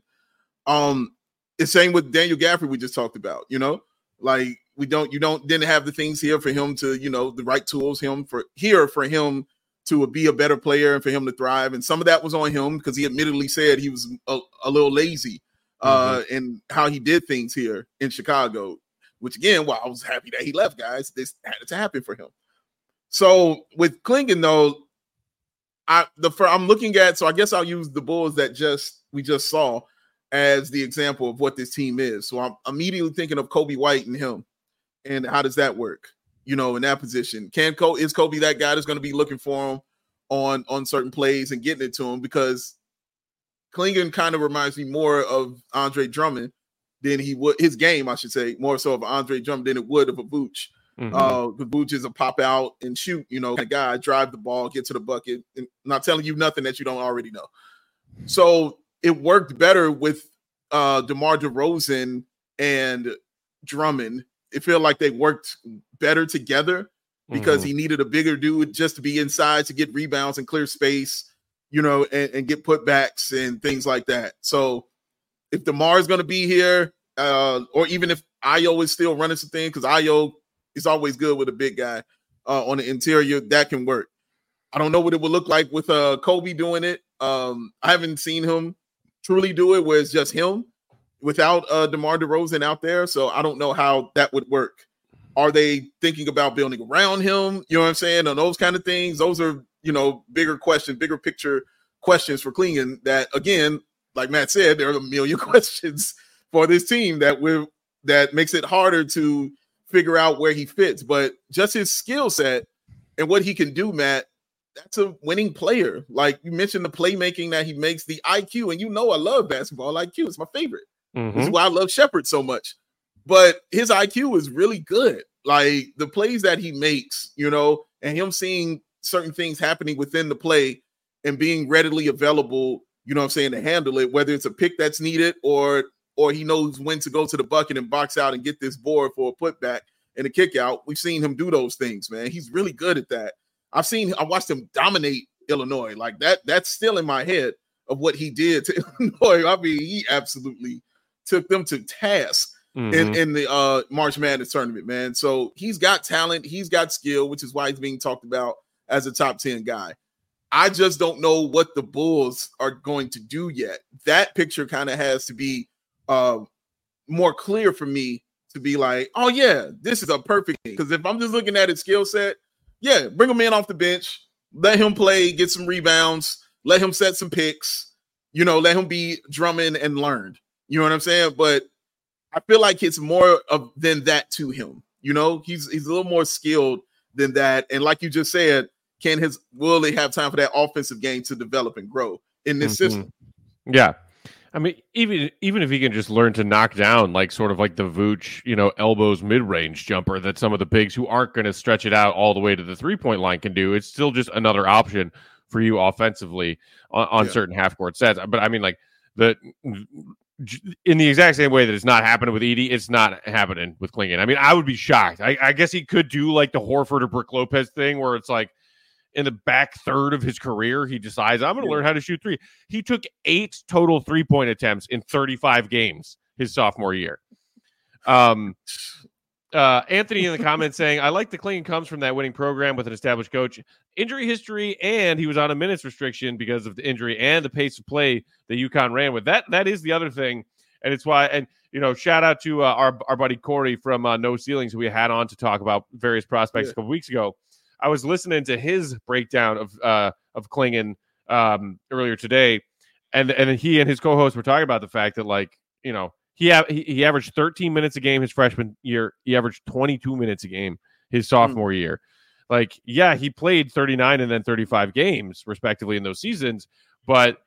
It's same with Daniel Gafford we just talked about, like didn't have the things here for him to, the right tools for him to be a better player and for him to thrive. And some of that was on him because he admittedly said he was a little lazy in how he did things here in Chicago, which again, I was happy that he left, guys. This had to happen for him. So with Clingan, though, I'm looking at, so I guess I'll use the Bulls that we just saw as the example of what this team is. So I'm immediately thinking of Kobe White and him, and how does that work? In that position, is Kobe that guy that's going to be looking for him on certain plays and getting it to him? Because Clingan kind of reminds me more of Andre Drummond than he would, his game, I should say, more so of Andre Drummond than it would of a Vooch. The Vooch is a pop out and shoot, kind of guy, drive the ball, get to the bucket, and not telling you nothing that you don't already know. So it worked better with DeMar DeRozan and Drummond. It felt like they worked better together because he needed a bigger dude just to be inside to get rebounds and clear space, and get putbacks and things like that. So if DeMar is going to be here, or even if Ayo is still running some things, because Ayo is always good with a big guy on the interior, that can work. I don't know what it would look like with Kobe doing it. I haven't seen him truly do it where it's just him. without DeMar DeRozan out there. So I don't know how that would work. Are they thinking about building around him? You know what I'm saying? And those kind of things. Those are, bigger questions, bigger picture questions for Clingan that, again, like Matt said, there are a million questions for this team that makes it harder to figure out where he fits. But just his skill set and what he can do, Matt, that's a winning player. Like you mentioned the playmaking that he makes, the IQ, and I love basketball IQ. It's my favorite. Mm-hmm. This is why I love Shepherd so much. But his IQ is really good. Like the plays that he makes, and him seeing certain things happening within the play and being readily available, to handle it, whether it's a pick that's needed or he knows when to go to the bucket and box out and get this board for a putback and a kick out. We've seen him do those things, man. He's really good at that. I watched him dominate Illinois. Like that's still in my head of what he did to Illinois. I mean, he absolutely took them to task in the March Madness tournament, man. So he's got talent, he's got skill, which is why he's being talked about as a top 10 guy. I just don't know what the Bulls are going to do yet. That picture kind of has to be more clear for me to be like, oh yeah, this is a perfect thing. Because if I'm just looking at his skill set, yeah, bring him in off the bench, let him play, get some rebounds, let him set some picks, let him be Drummond and learned. You know what I'm saying? But I feel like it's more than that to him. He's a little more skilled than that. And like you just said, will they have time for that offensive game to develop and grow in this system? Yeah. I mean, even if he can just learn to knock down sort of like the Vooch, elbows mid-range jumper that some of the bigs who aren't going to stretch it out all the way to the 3-point line can do, it's still just another option for you offensively on certain half-court sets. But I mean, in the exact same way that it's not happening with Edey, it's not happening with Clingan. I mean, I would be shocked. I guess he could do the Horford or Brook Lopez thing where it's in the back third of his career, he decides, I'm going to learn how to shoot three. He took 8 total 3-point attempts in 35 games his sophomore year. Anthony in the comments saying, I like the Clingan comes from that winning program with an established coach, injury history, and he was on a minutes restriction because of the injury and the pace of play that UConn ran with. That is the other thing. And it's why, and shout out to our buddy Corey from No Ceilings, who we had on to talk about various prospects a couple weeks ago. I was listening to his breakdown of Clingan earlier today, and he and his co-host were talking about the fact that he averaged 13 minutes a game his freshman year. He averaged 22 minutes a game his sophomore year. He played 39 and then 35 games respectively in those seasons, but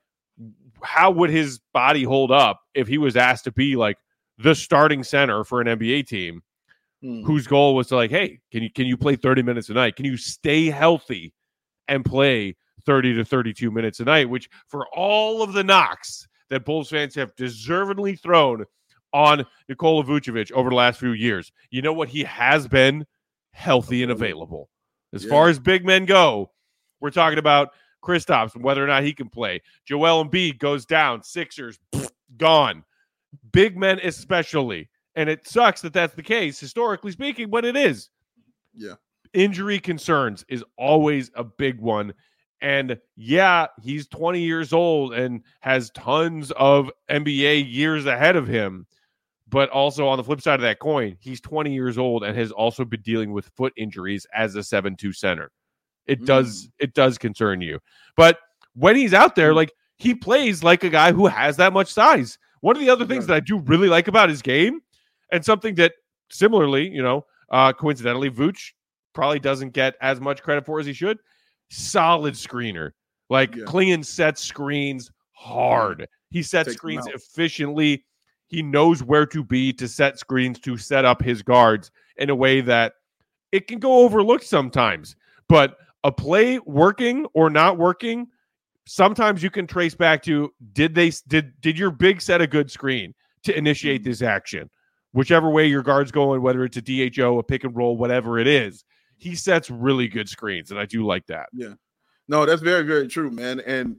how would his body hold up if he was asked to be the starting center for an NBA team? Whose goal was to hey, can you play 30 minutes a night? Can you stay healthy and play 30 to 32 minutes a night? Which, for all of the knocks that Bulls fans have deservedly thrown on Nikola Vucevic over the last few years, you know what? He has been healthy and available. As far as big men go, we're talking about Kristaps and whether or not he can play. Joel Embiid goes down. Sixers, gone. Big men especially. And it sucks that that's the case, historically speaking, but it is. Yeah. Injury concerns is always a big one. And he's 20 years old and has tons of NBA years ahead of him. But also on the flip side of that coin, he's 20 years old and has also been dealing with foot injuries as a 7'2" center. It does concern you. But when he's out there, he plays like a guy who has that much size. One of the other things that I do really like about his game, and something that similarly, coincidentally, Vooch probably doesn't get as much credit for as he should. Solid screener. Clingan sets screens hard. He sets screens efficiently. He knows where to be to set screens, to set up his guards in a way that it can go overlooked sometimes. But a play working or not working, sometimes you can trace back to did your big set a good screen to initiate this action? Whichever way your guard's going, whether it's a DHO, a pick and roll, whatever it is, he sets really good screens, and I do like that. Yeah. No, that's very, very true, man. And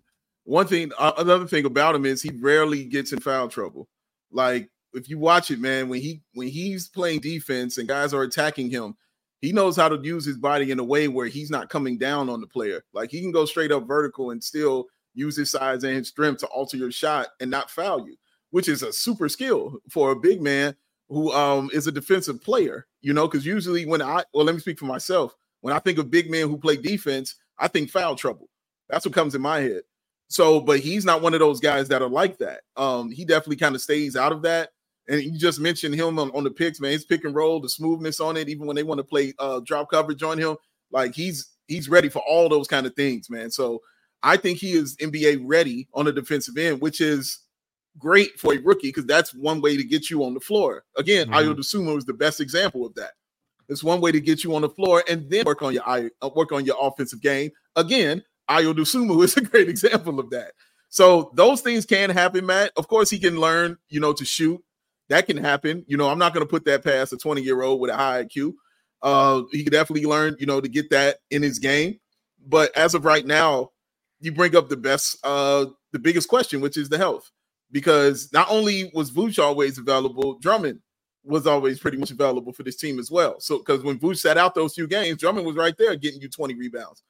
another thing about him is he rarely gets in foul trouble. If you watch it, man, when he's playing defense and guys are attacking him, he knows how to use his body in a way where he's not coming down on the player. He can go straight up vertical and still use his size and his strength to alter your shot and not foul you. which is a super skill for a big man who is a defensive player, because usually let me speak for myself. When I think of big men who play defense, I think foul trouble. That's what comes in my head. So, but he's not one of those guys that are like that. He definitely kind of stays out of that. And you just mentioned him on the picks, man. His pick and roll, the smoothness on it, even when they want to play drop coverage on him, like he's ready for all those kind of things, man. So I think he is NBA ready on the defensive end, which is great for a rookie because that's one way to get you on the floor. Again, Ayo Dosunmu is the best example of that. It's one way to get you on the floor and then work on your offensive game. Again, Ayo Dosunmu is a great example of that. So those things can happen, Matt. Of course, he can learn, to shoot. That can happen. I'm not going to put that past a 20-year-old with a high IQ. He could definitely learn, to get that in his game. But as of right now, you bring up the biggest question, which is the health. Because not only was Vooch always available, Drummond was always pretty much available for this team as well. So because when Vooch sat out those few games, Drummond was right there getting you 20 rebounds.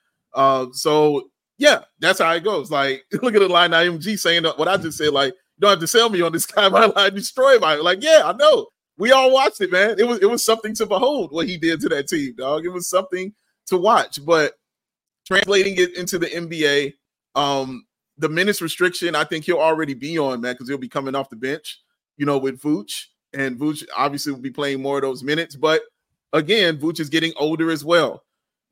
So yeah, that's how it goes. Like, look at the line IMG saying what I just said, like, you don't have to sell me on this guy, my line destroy my like, yeah, I know. We all watched it, man. It was something to behold what he did to that team, dog. It was something to watch. But translating it into the NBA, the minutes restriction, I think he'll already be on, man, because he'll be coming off the bench, with Vooch. And Vooch obviously will be playing more of those minutes. But again, Vooch is getting older as well.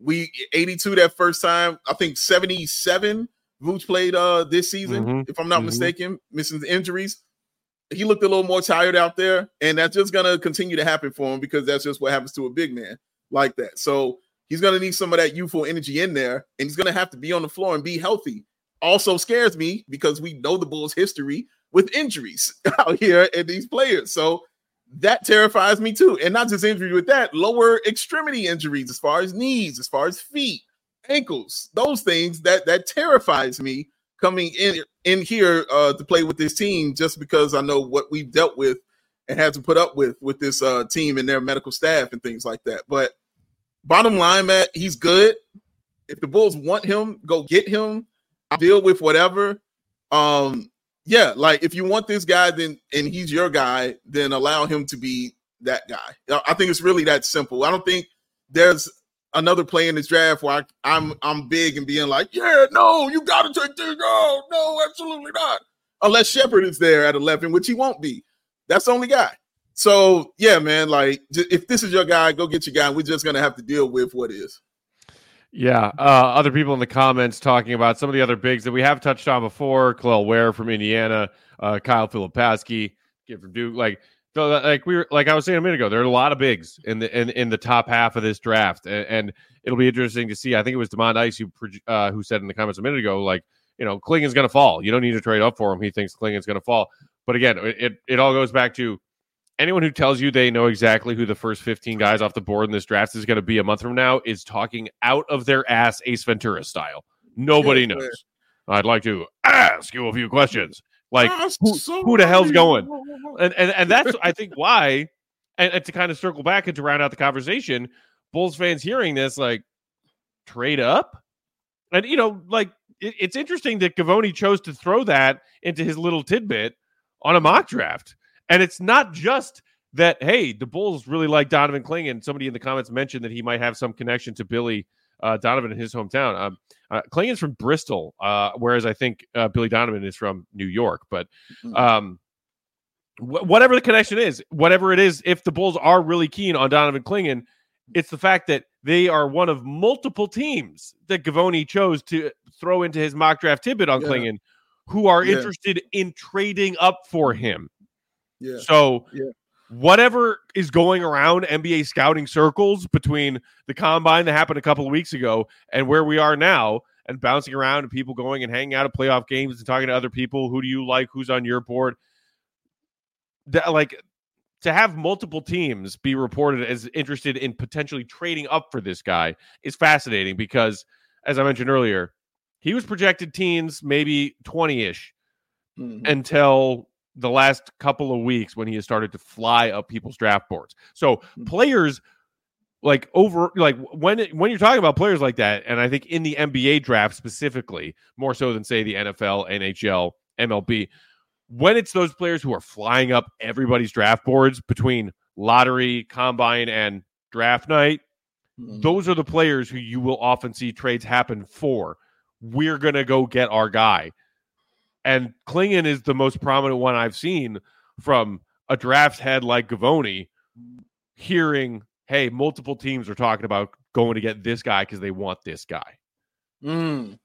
82 that first time, I think 77 Vooch played this season, if I'm not mistaken, missing the injuries. He looked a little more tired out there, and that's just going to continue to happen for him because that's just what happens to a big man like that. So he's going to need some of that youthful energy in there, and he's going to have to be on the floor and be healthy. Also scares me because we know the Bulls' history with injuries out here and these players. So that terrifies me too. And not just injury with that, lower extremity injuries as far as knees, as far as feet, ankles, those things that terrifies me coming in here to play with this team just because I know what we've dealt with and had to put up with this team and their medical staff and things like that. But bottom line, Matt, he's good. If the Bulls want him, go get him. I'll deal with whatever. Yeah, like if you want this guy, then and he's your guy, then allow him to be that guy. I think it's really that simple. I don't think there's another play in this draft where I'm big and being like, yeah, no, you got to take this. No, absolutely not. Unless Shepherd is there at 11, which he won't be. That's the only guy. So yeah, man, like if this is your guy, go get your guy. We're just gonna have to deal with what is. Yeah, other people in the comments talking about some of the other bigs that we have touched on before. Kel'el Ware from Indiana, Kyle Filipowski, kid from Duke. Like I was saying a minute ago, there are a lot of bigs in the top half of this draft, and it'll be interesting to see. I think it was DeMond Ice who said in the comments a minute ago, like, Clingan's going to fall. You don't need to trade up for him. He thinks Clingan's going to fall. But again, it all goes back to anyone who tells you they know exactly who the first 15 guys off the board in this draft is going to be a month from now is talking out of their ass Ace Ventura style. Nobody knows. I'd like to ask you a few questions. Like, who the hell's going? And that's, I think, why, and to kind of circle back and to round out the conversation, Bulls fans hearing this, like, trade up? And, it's interesting that Gavoni chose to throw that into his little tidbit on a mock draft. And it's not just that, hey, the Bulls really like Donovan Clingan. Somebody in the comments mentioned that he might have some connection to Billy Donovan in his hometown. Clingan's from Bristol, whereas I think Billy Donovan is from New York. But whatever the connection is, whatever it is, if the Bulls are really keen on Donovan Clingan, it's the fact that they are one of multiple teams that Gavoni chose to throw into his mock draft tidbit on Clingan who are interested in trading up for him. Yeah. So whatever is going around NBA scouting circles between the combine that happened a couple of weeks ago and where we are now and bouncing around and people going and hanging out at playoff games and talking to other people. Who do you like? Who's on your board? Like, to have multiple teams be reported as interested in potentially trading up for this guy is fascinating because, as I mentioned earlier, he was projected teens, maybe 20-ish until the last couple of weeks when he has started to fly up people's draft boards. So players when you're talking about players like that, and I think in the NBA draft specifically, more so than say the NFL, NHL, MLB, when it's those players who are flying up everybody's draft boards between lottery, combine, and draft night, those are the players who you will often see trades happen for. We're going to go get our guy. And Klingon is the most prominent one I've seen from a draft head like Gavoni, hearing, hey, multiple teams are talking about going to get this guy because they want this guy. And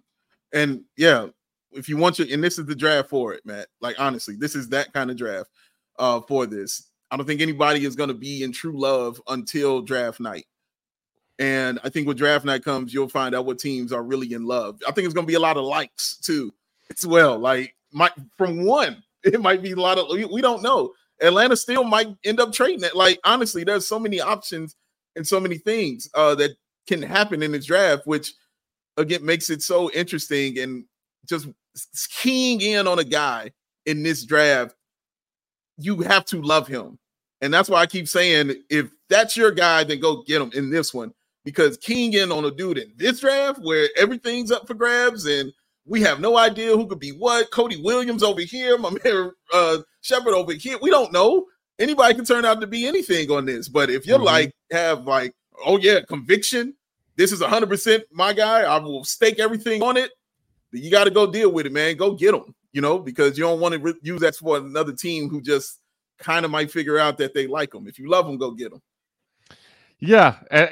yeah, if you want and this is the draft for it, Matt. Like, honestly, this is that kind of draft for this. I don't think anybody is going to be in true love until draft night. And I think when draft night comes, you'll find out what teams are really in love. I think it's going to be a lot of likes too, as well. Like, from one, it might be a lot of, we don't know. Atlanta still might end up trading it. Like, honestly, there's so many options and so many things that can happen in this draft, which again makes it so interesting. And just keying in on a guy in this draft, you have to love him. And that's why I keep saying, if that's your guy, then go get him in this one. Because keying in on a dude in this draft where everything's up for grabs and we have no idea who could be what, Cody Williams over here, my man Shepard over here, we don't know. Anybody can turn out to be anything on this. But if you're have oh yeah, conviction, this is 100% my guy, I will stake everything on it, you got to go deal with it, man. Go get him, because you don't want to use that for another team who just kind of might figure out that they like him. If you love him, go get him. Yeah,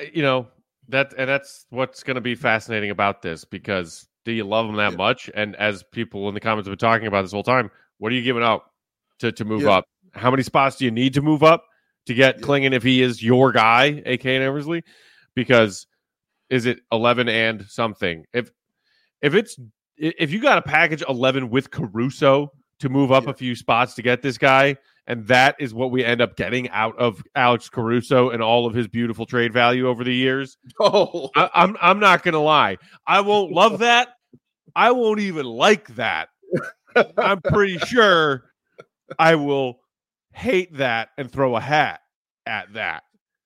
that's what's going to be fascinating about this, because do you love him that much? And as people in the comments have been talking about this whole time, what are you giving up to move up? How many spots do you need to move up to get Klingon if he is your guy, a.k.a. Eversley? Because is it 11 and something? If you got to package 11 with Caruso to move up a few spots to get this guy, and that is what we end up getting out of Alex Caruso and all of his beautiful trade value over the years. I'm not going to lie. I won't love that. I won't even like that. I'm pretty sure I will hate that and throw a hat at that.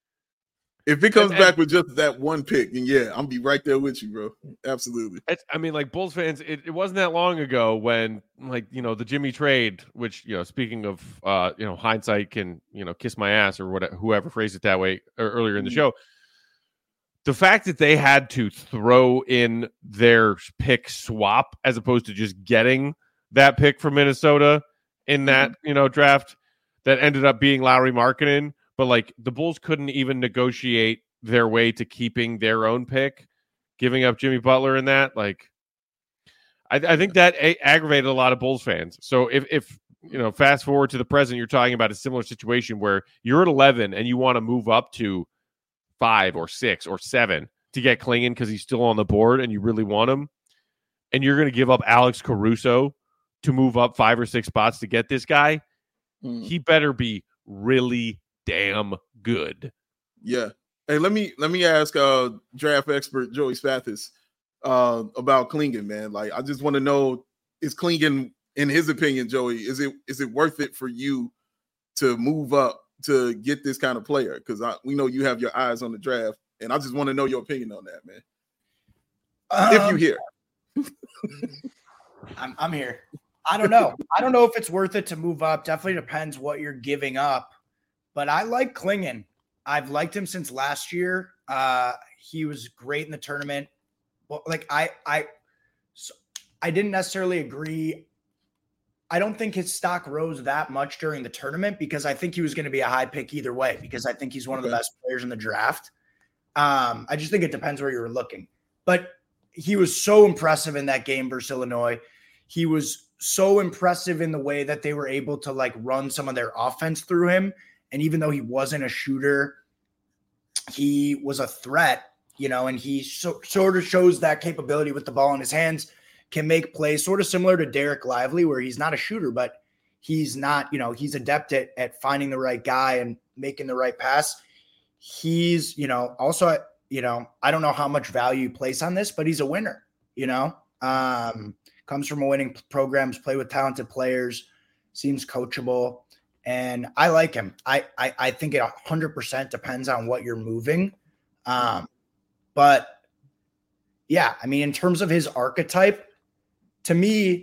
If it comes back with just that one pick, then I'll be right there with you, bro. Absolutely. Like Bulls fans, it wasn't that long ago when, the Jimmy trade, which, speaking of, hindsight can, kiss my ass or whatever, whoever phrased it that way earlier in the show. The fact that they had to throw in their pick swap as opposed to just getting that pick from Minnesota in that, draft that ended up being Lauri Markkanen. But the Bulls couldn't even negotiate their way to keeping their own pick, giving up Jimmy Butler in that. I think that aggravated a lot of Bulls fans. So if fast forward to the present, you're talking about a similar situation where you're at 11 and you want to move up to 5 or 6 or 7 to get Klingon because he's still on the board and you really want him, and you're going to give up Alex Caruso to move up 5 or 6 spots to get this guy. He better be really damn good. Yeah. Hey, let me ask draft expert Joey Spathis about Klingon, man. I just want to know, is Klingon, in his opinion, Joey, is it worth it for you to move up to get this kind of player? Because we know you have your eyes on the draft, and I just want to know your opinion on that, man. If you here. I'm here. I don't know. I don't know if it's worth it to move up. Definitely depends what you're giving up. But I like Klingon. I've liked him since last year. He was great in the tournament. Well, I didn't necessarily agree. I don't think his stock rose that much during the tournament because I think he was going to be a high pick either way, because I think he's one of the best players in the draft. I just think it depends where you're looking. But he was so impressive in that game versus Illinois. He was so impressive in the way that they were able to run some of their offense through him. And even though he wasn't a shooter, he was a threat, and he sort of shows that capability with the ball in his hands, can make plays sort of similar to Derek Lively, where he's not a shooter, but he's not, he's adept at finding the right guy and making the right pass. He's, also, I don't know how much value you place on this, but he's a winner, comes from a winning program, play with talented players, seems coachable. And I like him. I think it 100% depends on what you're moving. But yeah, I mean, in terms of his archetype, to me,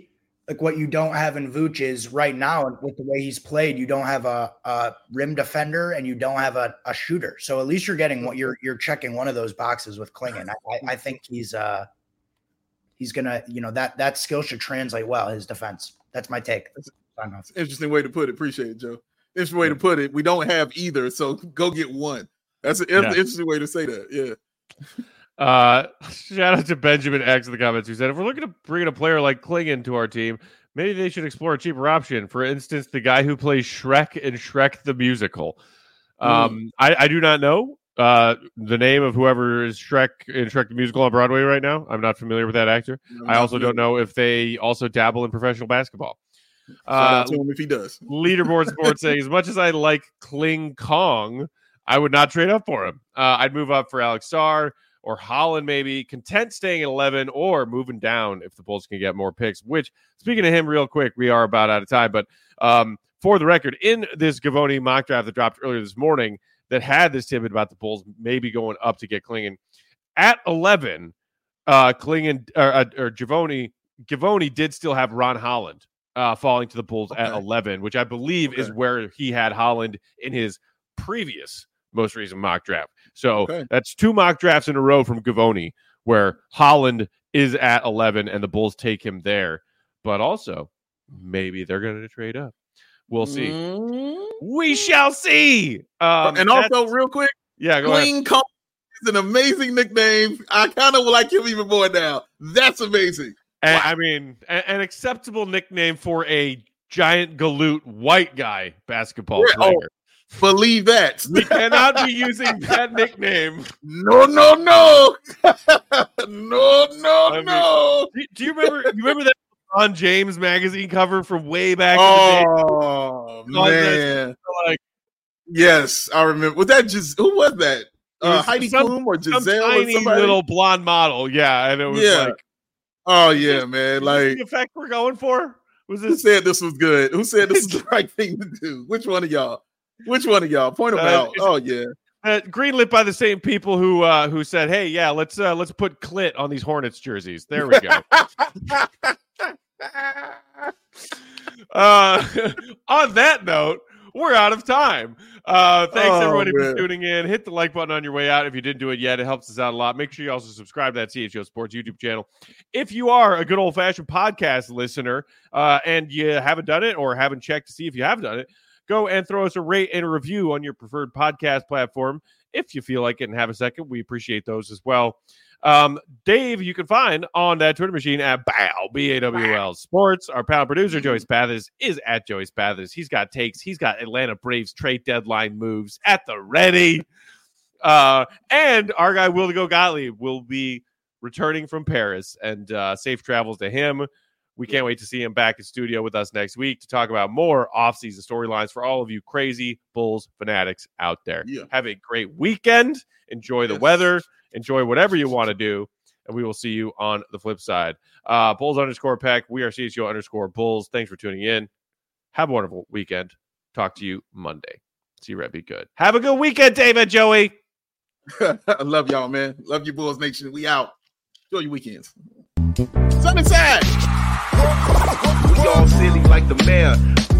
like what you don't have in Vooch is right now with the way he's played, you don't have a rim defender and you don't have a shooter. So at least you're getting what you're checking one of those boxes with Clingan. I think he's gonna, that skill should translate well, his defense. That's my take. That's an interesting way to put it. Appreciate it, Joe. Interesting way to put it. We don't have either, so go get one. That's an interesting way to say that. Yeah. Shout out to Benjamin X in the comments who said, if we're looking to bring in a player like Clingan to our team, maybe they should explore a cheaper option. For instance, the guy who plays Shrek in Shrek the Musical. I do not know the name of whoever is Shrek in Shrek the Musical on Broadway right now. I'm not familiar with that actor. I also don't know if they also dabble in professional basketball. Shout out to him if he does. Leaderboard Sports saying, as much as I like Kling Kong, I would not trade up for him. I'd move up for Alex Sarr or Holland, maybe. Content staying at 11 or moving down if the Bulls can get more picks, which, speaking of him real quick, we are about out of time. But for the record, in this Gavoni mock draft that dropped earlier this morning that had this tidbit about the Bulls maybe going up to get Clingan, at 11, Clingan or Gavoni did still have Ron Holland falling to the Bulls at 11, which I believe is where he had Holland in his previous most recent mock draft. So that's 2 mock drafts in a row from Gavoni where Holland is at 11 and the Bulls take him there. But also, maybe they're going to trade up. We'll see. We shall see. And also, real quick, go ahead. Kong is an amazing nickname. I kind of like him even more now. That's amazing. And, I mean, an acceptable nickname for a giant galoot white guy basketball player. Believe that. We cannot be using that nickname. No. No. Do you remember that LeBron James magazine cover from way back in the day? Man. Yes, I remember. Was that just who was that? Heidi Klum or Giselle tiny or somebody? Little blonde model. Yeah, and it was like, oh yeah, man. Like the effect we're going for? Was this? Who said this was good? Who said this is the right thing to do? Which one of y'all? Point them out. Oh yeah. Greenlit by the same people who said, "Hey, yeah, let's put clit on these Hornets jerseys." There we go. On that note, we're out of time. Thanks everybody for tuning in. Hit the like button on your way out if you didn't do it yet. It helps us out a lot. Make sure you also subscribe to that CHO Sports YouTube channel. If you are a good old-fashioned podcast listener and you haven't done it or haven't checked to see if you have done it, go and throw us a rate and a review on your preferred podcast platform. If you feel like it and have a second, we appreciate those as well. Dave, you can find on that Twitter machine at BAWL Sports. Our panel producer, Joey Spathis, is at Joey Spathis. He's got takes. He's got Atlanta Braves trade deadline moves at the ready. And our guy, Will to Go Gottlieb, will be returning from Paris, and safe travels to him. We can't wait to see him back in studio with us next week to talk about more off-season storylines for all of you crazy Bulls fanatics out there. Yeah. Have a great weekend. Enjoy the weather. Enjoy whatever you want to do. And we will see you on the flip side. Bulls_Peck. We are CHGO_Bulls. Thanks for tuning in. Have a wonderful weekend. Talk to you Monday. See you, Red. Be good. Have a good weekend, David, Joey. I love y'all, man. Love you, Bulls Nation. We out. Enjoy your weekends. Sun inside. We all silly like the mayor.